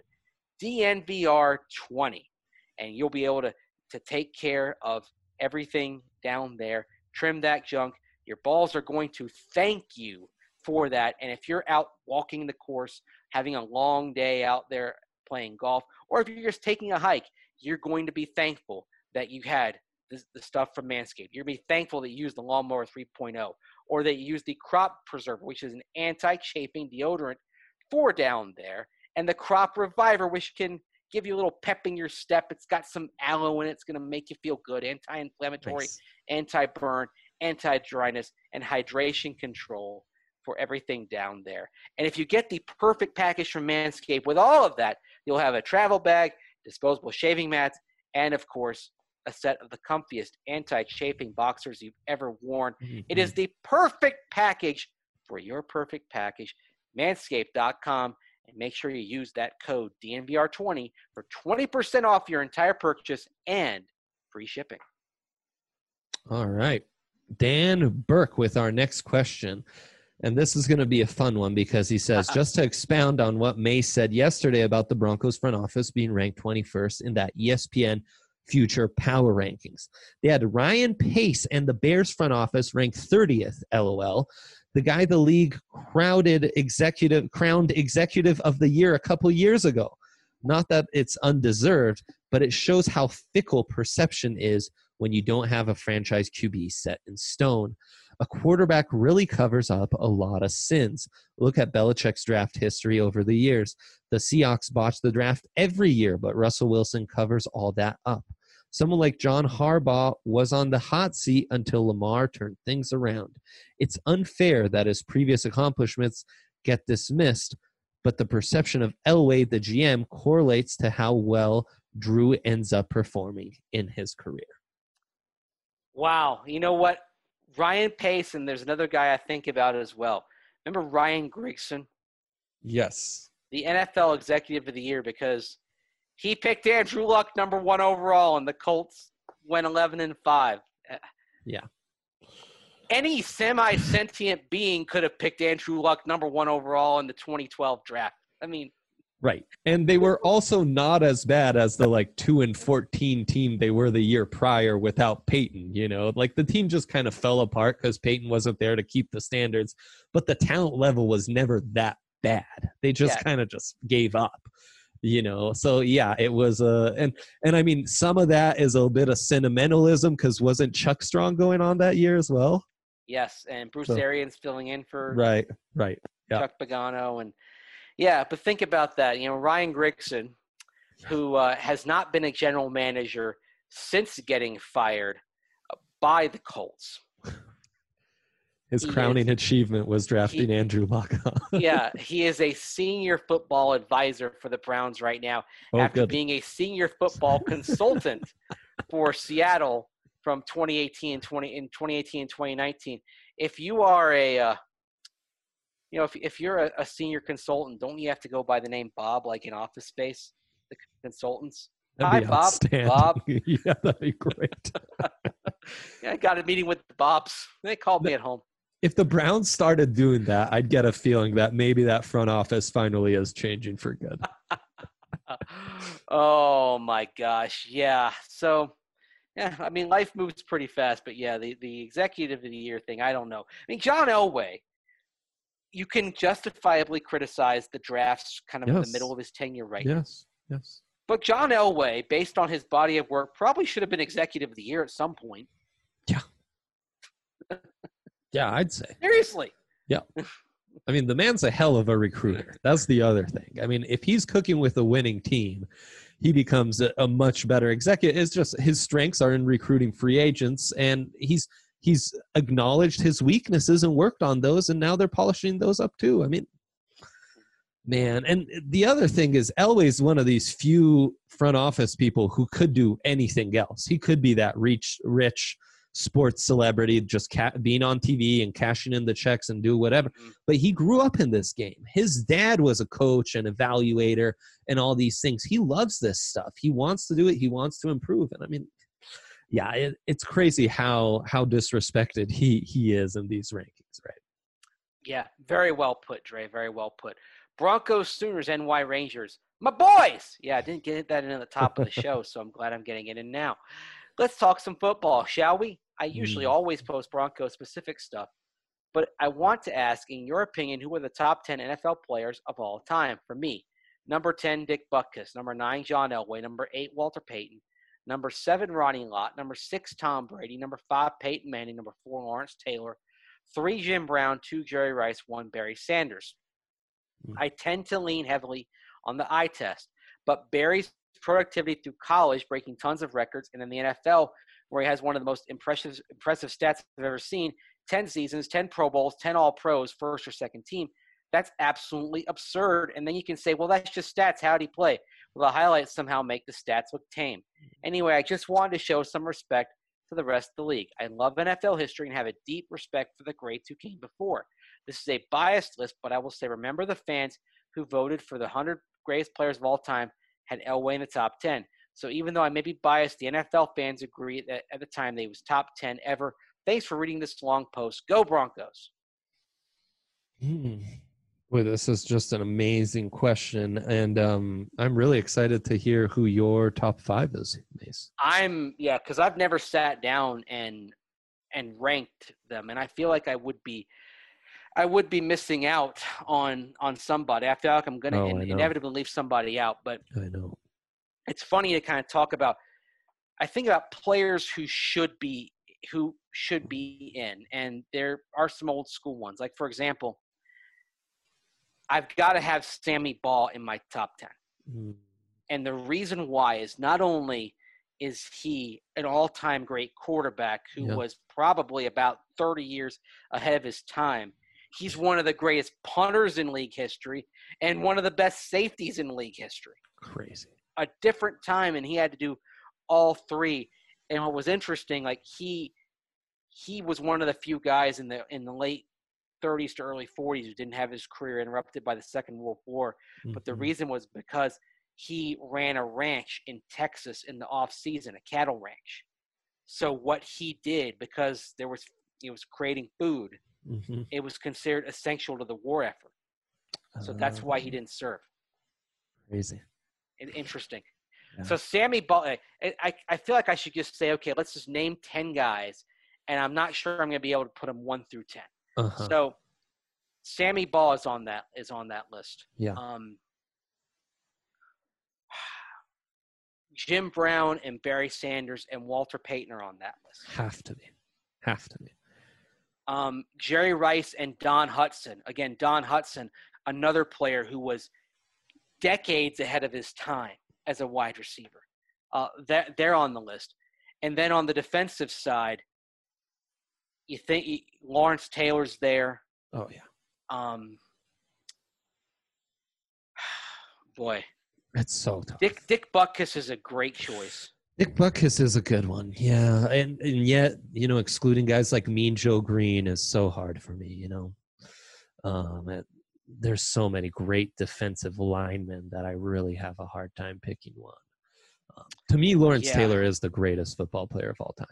D N V R twenty, and you'll be able to, to take care of everything down there. Trim that junk. Your balls are going to thank you for that. And if you're out walking the course, having a long day out there playing golf, or if you're just taking a hike, you're going to be thankful that you had this, the stuff from Manscaped. You're going to be thankful that you used the Lawnmower three point oh, or that you used the Crop Preserver, which is an anti-chafing deodorant for down there, and the Crop Reviver, which can give you a little pep in your step. It's got some aloe in it. It's going to make you feel good. Anti-inflammatory, Nice. anti-burn, anti-dryness, and hydration control for everything down there. And if you get the perfect package from Manscaped with all of that, you'll have a travel bag, disposable shaving mats, and, of course, a set of the comfiest anti-chafing boxers you've ever worn. It is the perfect package for your perfect package. Manscaped dot com, and make sure you use that code D N V R twenty for twenty percent off your entire purchase and free shipping. All right. Dan Burke with our next question. And this is going to be a fun one because he says, just to expound on what May said yesterday about the Broncos front office being ranked twenty-first in that E S P N Future Power Rankings. They had Ryan Pace and the Bears front office ranked thirtieth, LOL. The guy the league crowded executive, crowned executive of the year a couple years ago. Not that it's undeserved, but it shows how fickle perception is when you don't have a franchise Q B set in stone. A quarterback really covers up a lot of sins. Look at Belichick's draft history over the years. The Seahawks botch the draft every year, but Russell Wilson covers all that up. Someone like John Harbaugh was on the hot seat until Lamar turned things around. It's unfair that his previous accomplishments get dismissed, but the perception of Elway, the G M, correlates to how well Drew ends up performing in his career. Wow. You know what? Ryan Pace, and there's another guy I think about as well. Remember Ryan Grigson? Yes. The N F L Executive of the Year, because he picked Andrew Luck number one overall, and the Colts went eleven and five. Yeah. Any semi-sentient being could have picked Andrew Luck number one overall in the twenty twelve draft. I mean, right. And they were also not as bad as the like two and fourteen team they were the year prior without Peyton. You know, like the team just kind of fell apart because Peyton wasn't there to keep the standards, but the talent level was never that bad. They just Yeah. kind of just gave up. You know, so yeah, it was uh and and I mean some of that is a bit of sentimentalism because wasn't Chuck Strong going on that year as well? yes, and Bruce So- Arians filling in for Right, right. Yeah. Chuck Pagano. And yeah, but think about that. You know, Ryan Grigson, who uh, has not been a general manager since getting fired by the Colts. His He crowning is- achievement was drafting he- Andrew Luck. Yeah, he is a senior football advisor for the Browns right now, Oh, after good. being a senior football consultant for Seattle from twenty eighteen and twenty in twenty eighteen and twenty nineteen. If you are a, uh, you know, if if you're a, a senior consultant, don't you have to go by the name Bob, like in Office Space, the consultants? Hi, That'd be Bob. outstanding. Bob. Yeah, that'd be great. Yeah, I got a meeting with the Bobs. They called me at home. If the Browns started doing that, I'd get a feeling that maybe that front office finally is changing for good. Oh my gosh, yeah. So, yeah, I mean, life moves pretty fast, but yeah, the the executive of the year thing, I don't know. I mean, John Elway, you can justifiably criticize the drafts kind of in the Yes. middle of his tenure right now. Yes, yes. But John Elway, based on his body of work, probably should have been executive of the year at some point. Yeah, I'd say. Seriously. I mean, the man's a hell of a recruiter. That's the other thing. I mean, if he's cooking with a winning team, he becomes a, a much better executive. It's just his strengths are in recruiting free agents, and he's he's acknowledged his weaknesses and worked on those, and now they're polishing those up too. I mean, man. And the other thing is Elway's one of these few front office people who could do anything else. He could be that rich, rich sports celebrity, just ca- being on T V and cashing in the checks and do whatever. Mhm. But he grew up in this game. His dad was a coach and evaluator and all these things. He loves this stuff. He wants to do it. He wants to improve. And I mean, yeah, it, it's crazy how how disrespected he he is in these rankings, right? Yeah, very well put, Dre. Very well put. Broncos, Sooners, N Y Rangers. My boys! Yeah, I didn't get that in at the top of the show, so I'm glad I'm getting it in now. Let's talk some football, shall we? I usually Mm. always post Broncos-specific stuff, but I want to ask, in your opinion, who are the top ten N F L players of all time? For me, number ten, Dick Butkus. Number nine, John Elway. Number eight, Walter Payton. Number seven, Ronnie Lott. Number six, Tom Brady. Number five, Peyton Manning. Number four, Lawrence Taylor. Three, Jim Brown. Two, Jerry Rice. One, Barry Sanders. Mm. I tend to lean heavily on the eye test, but Barry's productivity through college, breaking tons of records, and in the N F L, where he has one of the most impressive impressive stats I've ever seen, ten seasons, ten Pro Bowls, ten All-Pros, first or second team. That's absolutely absurd. And then you can say, well, that's just stats. How'd he play? Well, the highlights somehow make the stats look tame. Anyway, I just wanted to show some respect to the rest of the league. I love N F L history and have a deep respect for the greats who came before. This is a biased list, but I will say remember the fans who voted for the one hundred greatest players of all time had Elway in the top ten. So even though I may be biased, the N F L fans agree that at the time they was top ten ever. Thanks for reading this long post. Go Broncos. Hmm. Boy, this is just an amazing question, and um, I'm really excited to hear who your top five is, Mace. I'm yeah, because I've never sat down and and ranked them, and I feel like I would be I would be missing out on on somebody. I feel like I'm gonna Oh, I in, know. inevitably leave somebody out. But I know. it's funny to kind of talk about. I think about players who should be who should be in, and there are some old school ones. Like for example, I've got to have Sammy Ball in my top ten. Mm. And the reason why is not only is he an all-time great quarterback who Yeah. was probably about thirty years ahead of his time, he's one of the greatest punters in league history and one of the best safeties in league history. Crazy. A different time, and he had to do all three. And what was interesting, like he he was one of the few guys in the in the late thirties to early forties who didn't have his career interrupted by the Second World War. Mm-hmm. But the reason was because he ran a ranch in Texas in the off season, a cattle ranch. So what he did, because there was he was creating food, mm-hmm. it was considered essential to the war effort. So uh, that's why he didn't serve. Crazy. Interesting. Yeah. So Sammy Ball, I, I feel like I should just say, okay, let's just name ten guys, and I'm not sure I'm going to be able to put them one through ten. Uh-huh. So Sammy Ball is on that is on that list. Yeah. Um, Jim Brown and Barry Sanders and Walter Payton are on that list. Have to be. Have to be. Um, Jerry Rice and Don Hutson. Again, Don Hutson, another player who was decades ahead of his time as a wide receiver. Uh, that they're on the list. And then on the defensive side, you think Lawrence Taylor's there. Oh, yeah. Um, boy. It's so tough. Dick Dick Butkus is a great choice. Dick Butkus is a good one. Yeah. And, and yet, you know, excluding guys like Mean Joe Green is so hard for me, you know. Um, it, there's so many great defensive linemen that I really have a hard time picking one. Um, to me, Lawrence yeah. Taylor is the greatest football player of all time,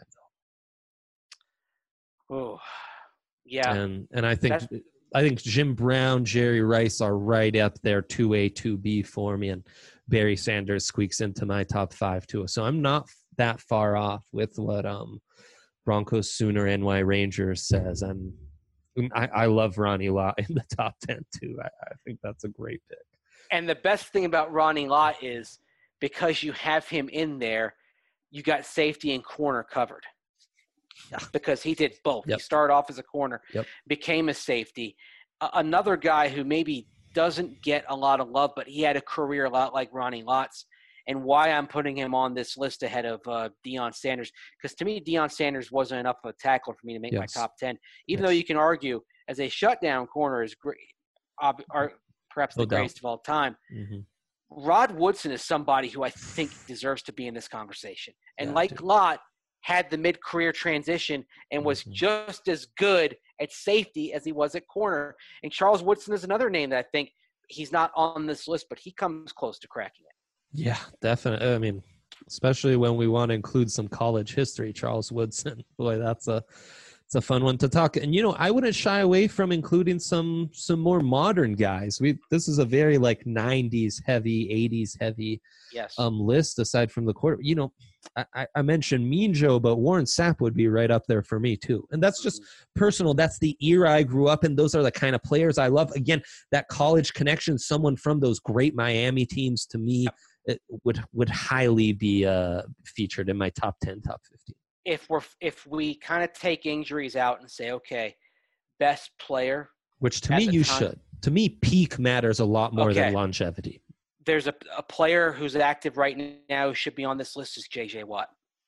though. Oh, yeah. And and I think That's... I think Jim Brown, Jerry Rice are right up there, two A, two B for me, and Barry Sanders squeaks into my top five too. So I'm not that far off with what um, Broncos Sooner N Y Rangers says. I'm I, I love Ronnie Lott in the top ten too. I, I think that's a great pick. And the best thing about Ronnie Lott is because you have him in there, you got safety and corner covered. Yeah. Because he did both. Yep. He started off as a corner, yep. became a safety. Uh, another guy who maybe doesn't get a lot of love, but he had a career a lot like Ronnie Lott's. And why I'm putting him on this list ahead of uh, Deion Sanders, because to me, Deion Sanders wasn't enough of a tackler for me to make yes. my top ten, even yes. though you can argue as a shutdown corner is great, uh, or perhaps no the greatest of all time. Mm-hmm. Rod Woodson is somebody who I think deserves to be in this conversation. And yeah, like dude. Lott, had the mid-career transition and was mm-hmm. just as good at safety as he was at corner. And Charles Woodson is another name that I think he's not on this list, but he comes close to cracking it. Yeah, definitely. I mean, especially when we want to include some college history, Charles Woodson. Boy, that's a it's a fun one to talk. And, you know, I wouldn't shy away from including some some more modern guys. We This is a very, like, nineties heavy, eighties heavy yes. um, list aside from the quarter. You know, I, I mentioned Mean Joe, but Warren Sapp would be right up there for me, too. And that's just mm-hmm. personal. That's the era I grew up in. Those are the kind of players I love. Again, that college connection, someone from those great Miami teams, to me, yep. it would would highly be uh, featured in my top ten, top fifteen. If we're if we kind of take injuries out and say, okay, best player, which to me you time, should. To me, peak matters a lot more okay. than longevity. There's a, a player who's active right now who should be on this list is J J Watt.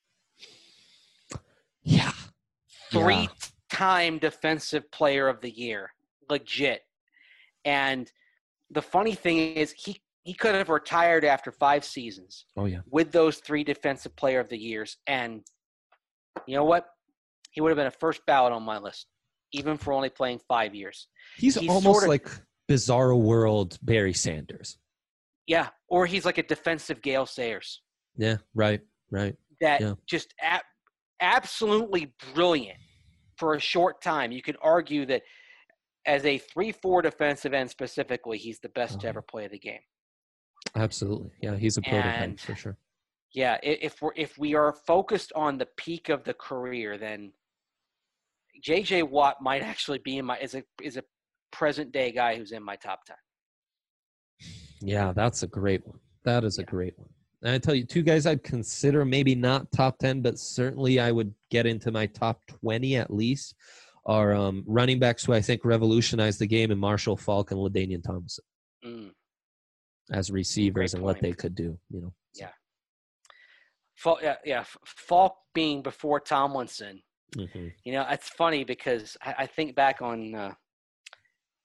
Yeah. Three-time yeah. defensive player of the year. Legit. And the funny thing is he, he could have retired after five seasons. Oh, yeah. With those three defensive player of the years. And you know what? He would have been a first ballot on my list, even for only playing five years. He's, he's almost sort of, like Bizarro World Barry Sanders. Yeah, or he's like a defensive Gale Sayers. Yeah, right, right. That yeah. just a- absolutely brilliant for a short time. You could argue that as a three four defensive end specifically, he's the best oh. to ever play the game. Absolutely. Yeah, he's a prototype and, for sure. Yeah, if we're if we are focused on the peak of the career, then J J Watt might actually be in my is a is a present day guy who's in my top ten. Yeah, that's a great one. That is yeah. a great one. And I tell you, two guys I'd consider maybe not top ten, but certainly I would get into my top twenty at least, are um, running backs who I think revolutionized the game in Marshall Faulk and LaDainian Tomlinson mm. as receivers and what they could do. You know. Yeah. Faulk, yeah, yeah. Faulk being before Tomlinson. Mm-hmm. You know, it's funny because I, I think back on uh,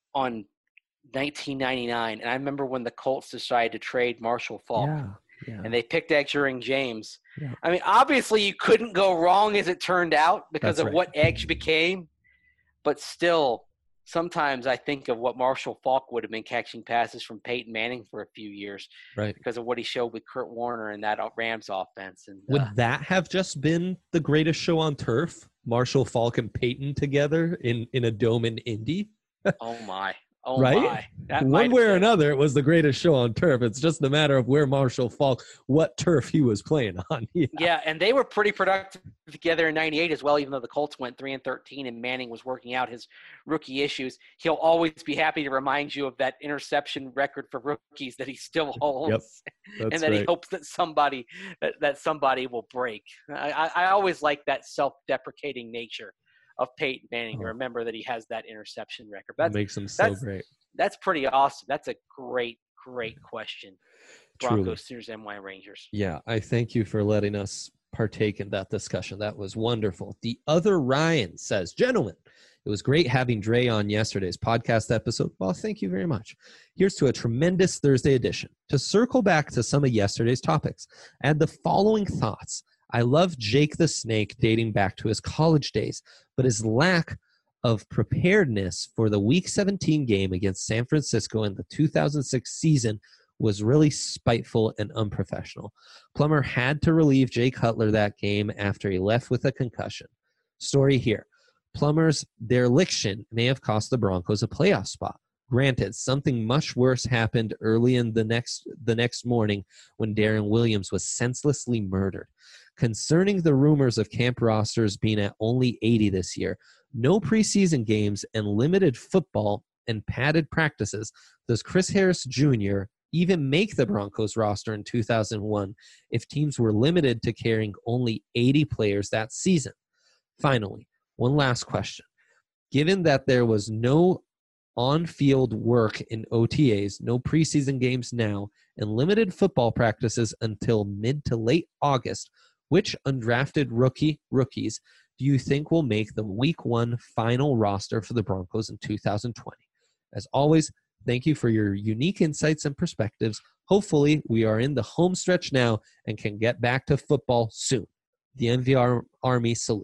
on nineteen ninety-nine, and I remember when the Colts decided to trade Marshall Faulk, Yeah, yeah. and they picked Edgerrin James. Yeah. I mean, obviously you couldn't go wrong as it turned out because That's of right. what Edge became, but still, sometimes I think of what Marshall Faulk would have been catching passes from Peyton Manning for a few years Right. because of what he showed with Kurt Warner and that Rams offense. And Would uh, that have just been the greatest show on turf? Marshall Faulk and Peyton together in, in a dome in Indy? oh my, oh Right? my, that One might way have or been. another, it was the greatest show on turf. It's just a matter of where Marshall Faulk, what turf he was playing on. Yeah. Yeah, and they were pretty productive together in ninety-eight as well, even though the Colts went three and thirteen and Manning was working out his rookie issues. He'll always be happy to remind you of that interception record for rookies that he still holds. Yep, that's and that right. he hopes that somebody that, that somebody will break. I, I, I always like that self-deprecating nature of Peyton Manning Oh. to remember that he has that interception record. That That's makes him so that's- great. that's pretty awesome. That's a great, great question. Truly. Broncos, Sooners, M Y Rangers. Yeah, I thank you for letting us partake in that discussion. That was wonderful. The other Ryan says, gentlemen, it was great having Dre on yesterday's podcast episode. Well, thank you very much. Here's to a tremendous Thursday edition. To circle back to some of yesterday's topics, I had the following thoughts. I love Jake the Snake dating back to his college days, but his lack of preparedness for the Week seventeen game against San Francisco in the two thousand six season was really spiteful and unprofessional. Plummer had to relieve Jay Cutler that game after he left with a concussion. Story here. Plummer's dereliction may have cost the Broncos a playoff spot. Granted, something much worse happened early in the next the next morning when Darren Williams was senselessly murdered. Concerning the rumors of camp rosters being at only eighty this year, no preseason games and limited football and padded practices, does Chris Harris Junior even make the Broncos roster in two thousand one if teams were limited to carrying only eighty players that season? Finally, one last question. Given that there was no on-field work in O T As, no preseason games now, and limited football practices until mid to late August, which undrafted rookie rookies do you think will make the Week One final roster for the Broncos in two thousand twenty? As always, thank you for your unique insights and perspectives. Hopefully, we are in the home stretch now and can get back to football soon. The N V R Army salute.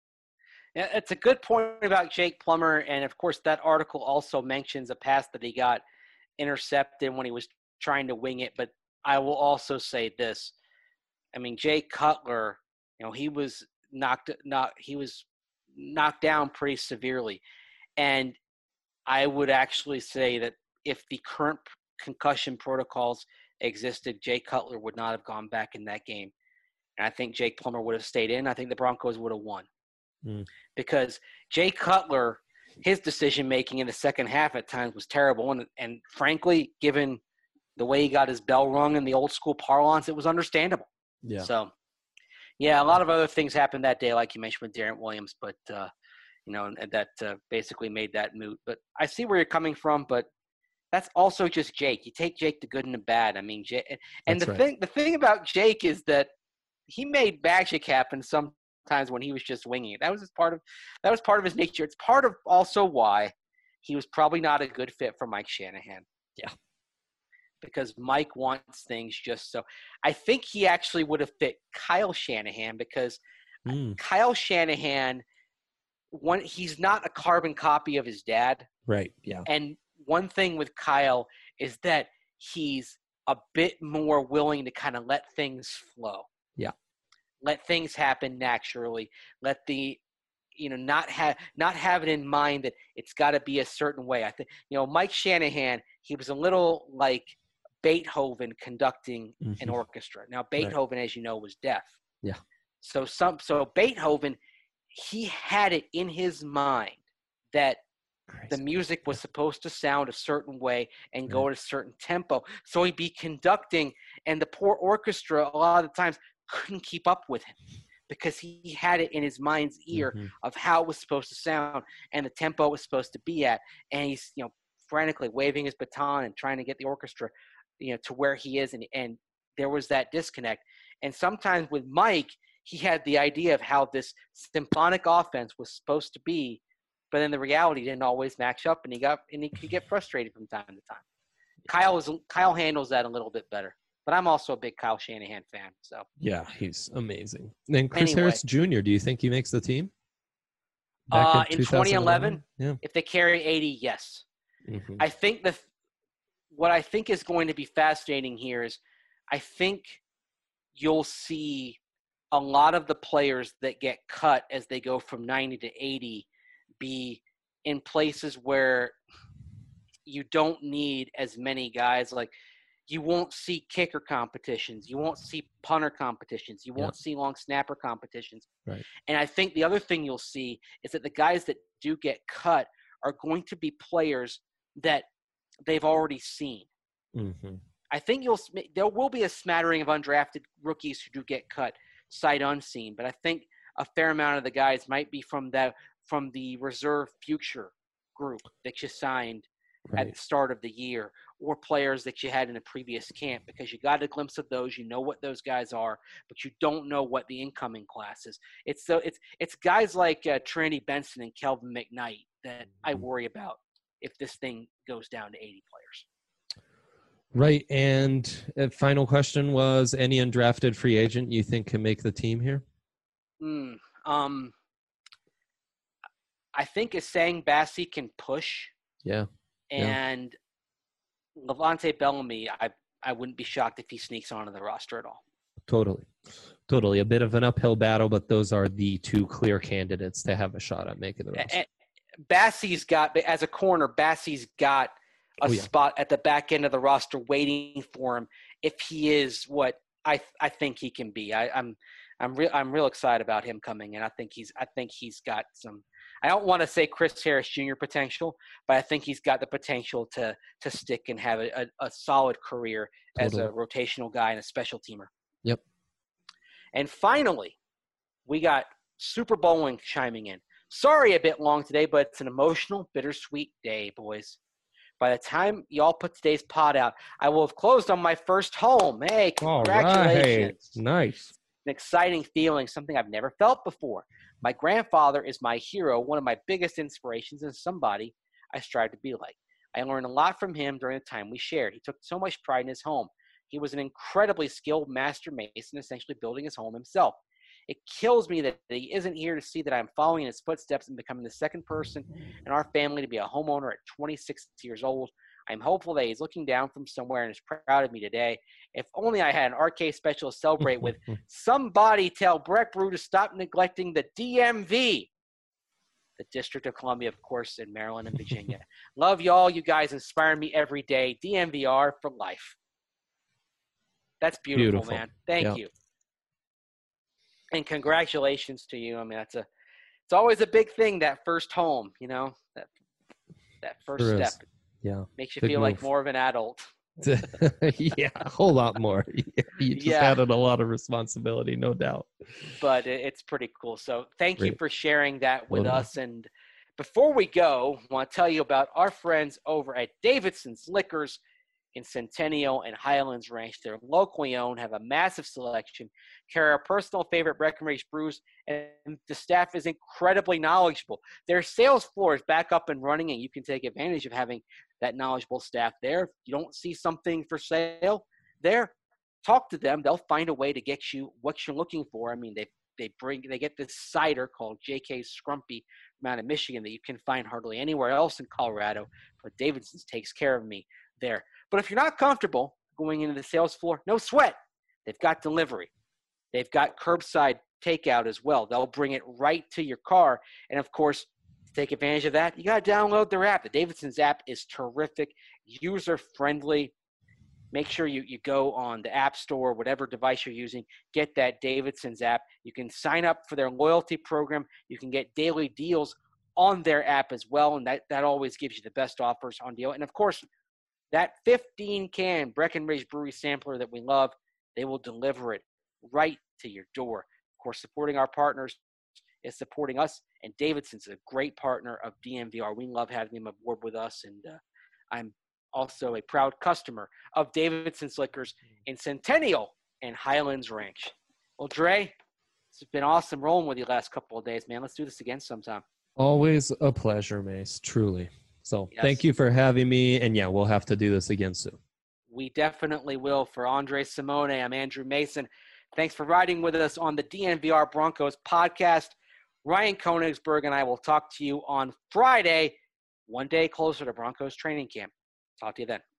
Yeah, it's a good point about Jake Plummer, and of course that article also mentions a pass that he got intercepted when he was trying to wing it. But I will also say this. I mean, Jay Cutler, you know, he was knocked not he was knocked down pretty severely. And I would actually say that if the current concussion protocols existed, Jay Cutler would not have gone back in that game. And I think Jake Plummer would have stayed in. I think the Broncos would have won. Mm. Because Jay Cutler, his decision-making in the second half at times was terrible. And, and frankly, given the way he got his bell rung in the old-school parlance, it was understandable. Yeah. So, yeah, a lot of other things happened that day, like you mentioned with Darren Williams, but, uh, you know, and that uh, basically made that moot. But I see where you're coming from, but that's also just Jake. You take Jake the good and the bad. I mean, Jake, and That's the right. thing, the thing about Jake is that he made magic happen some times when he was just winging it. That was his part of that was part of his nature. It's part of also why he was probably not a good fit for Mike Shanahan. Yeah. Because Mike wants things just so. I think he actually would have fit Kyle Shanahan because Mm. Kyle Shanahan, one he's not a carbon copy of his dad. Right. Yeah. And one thing with Kyle is that he's a bit more willing to kind of let things flow. Yeah. Let things happen naturally. Let the, you know, not have not have it in mind that it's got to be a certain way. I think, you know, Mike Shanahan, he was a little like Beethoven conducting an Mhm. orchestra. Now, Beethoven, as you know, was deaf. Yeah. So some so Beethoven, he had it in his mind that the Crazy. music was supposed to sound a certain way and go at a certain tempo. So he'd be conducting, and the poor orchestra a lot of the times couldn't keep up with him because he had it in his mind's ear Mhm. of how it was supposed to sound and the tempo it was supposed to be at. And he's, you know, frantically waving his baton and trying to get the orchestra, you know, to where he is. And, and there was that disconnect. And sometimes with Mike, he had the idea of how this symphonic offense was supposed to be, but then the reality didn't always match up, and he got and he could get frustrated from time to time. Kyle is Kyle handles that a little bit better, but I'm also a big Kyle Shanahan fan. So yeah, he's amazing. And Chris Anyway. Harris Junior, do you think he makes the team? Back uh, in twenty eleven, Yeah. if they carry eighty, yes. Mhm. I think the what I think is going to be fascinating here is I think you'll see a lot of the players that get cut as they go from ninety to eighty be in places where you don't need as many guys. Like you won't see kicker competitions. You won't see punter competitions. You won't see long snapper competitions. Right. And I think the other thing you'll see is that the guys that do get cut are going to be players that they've already seen. Mhm. I think you'll there will be a smattering of undrafted rookies who do get cut sight unseen, but I think a fair amount of the guys might be from the from the reserve future group that you signed at Right. the start of the year, or players that you had in a previous camp, because you got a glimpse of those. You know what those guys are, but you don't know what the incoming class is. It's so it's it's guys like uh, Trinity Benson and Kelvin McKnight that I worry about if this thing goes down to eighty players. Right. And uh, final question was, any undrafted free agent you think can make the team here? Mm, um, I think Asang Bassi can push, Yeah. Yeah. and Levante Bellamy, I I wouldn't be shocked if he sneaks onto the roster at all. Totally. Totally. A bit of an uphill battle, but those are the two clear candidates to have a shot at making the roster. And Bassi's got, as a corner, Bassi's got a Oh, yeah. spot at the back end of the roster waiting for him if he is what I I think he can be. I, I'm I'm real I'm real excited about him coming in. I think he's I think he's got some. I don't want to say Chris Harris Junior potential, but I think he's got the potential to to stick and have a, a, a solid career as a Totally. rotational guy and a special teamer. Yep. And finally, we got Super Bowling chiming in. Sorry a bit long today, but it's an emotional, bittersweet day, boys. By the time y'all put today's pod out, I will have closed on my first home. Hey, All congratulations. right. Nice. An exciting feeling, something I've never felt before. My grandfather is my hero, one of my biggest inspirations, and somebody I strive to be like. I learned a lot from him during the time we shared. He took so much pride in his home. He was an incredibly skilled master mason, essentially building his home himself. It kills me that he isn't here to see that I'm following in his footsteps and becoming the second person in our family to be a homeowner at twenty-six years old. I'm hopeful that he's looking down from somewhere and is proud of me today. If only I had an arcade special to celebrate with. Somebody tell Breck Brew to stop neglecting the D M V, the District of Columbia, of course, in Maryland and Virginia. Love y'all. You guys inspire me every day. D M V R for life. That's beautiful, Beautiful. man. Thank Yep. you. And congratulations to you. I mean, that's a, it's always a big thing, that first home, you know, that, that first Sure is. step Yeah. makes you Big feel like move. more of an adult. Yeah, a whole lot more. You just Yeah. added a lot of responsibility, no doubt. But it- it's pretty cool. So thank you Great. for sharing that with Totally. us. And before we go, I want to tell you about our friends over at Davidson's Liquors in Centennial and Highlands Ranch. They're locally owned, have a massive selection, carry our personal favorite Breckenridge brews, and the staff is incredibly knowledgeable. Their sales floor is back up and running, and you can take advantage of having that knowledgeable staff there. If you don't see something for sale there, talk to them. They'll find a way to get you what you're looking for. I mean, they they bring they get this cider called J K's Scrumpy from out of Michigan that you can find hardly anywhere else in Colorado, but Davidson's takes care of me there. But if you're not comfortable going into the sales floor, no sweat. They've got delivery. They've got curbside takeout as well. They'll bring it right to your car. And, of course, to take advantage of that, you got to download their app. The Davidson's app is terrific, user-friendly. Make sure you, you go on the App Store, whatever device you're using, get that Davidson's app. You can sign up for their loyalty program. You can get daily deals on their app as well, and that, that always gives you the best offers on deal. And, of course, that fifteen-can Breckenridge Brewery sampler that we love, they will deliver it right to your door. Of course, supporting our partners is supporting us, and Davidson's a great partner of D M V R. We love having them aboard with us, and uh, I'm also a proud customer of Davidson's Liquors in Centennial and Highlands Ranch. Well, Dre, it's been awesome rolling with you the last couple of days, man. Let's do this again sometime. Always a pleasure, Mace, truly. So Yes. thank you for having me. And yeah, we'll have to do this again soon. We definitely will. For Andre Simone, I'm Andrew Mason. Thanks for riding with us on the D N V R Broncos podcast. Ryan Koenigsberg and I will talk to you on Friday, one day closer to Broncos training camp. Talk to you then.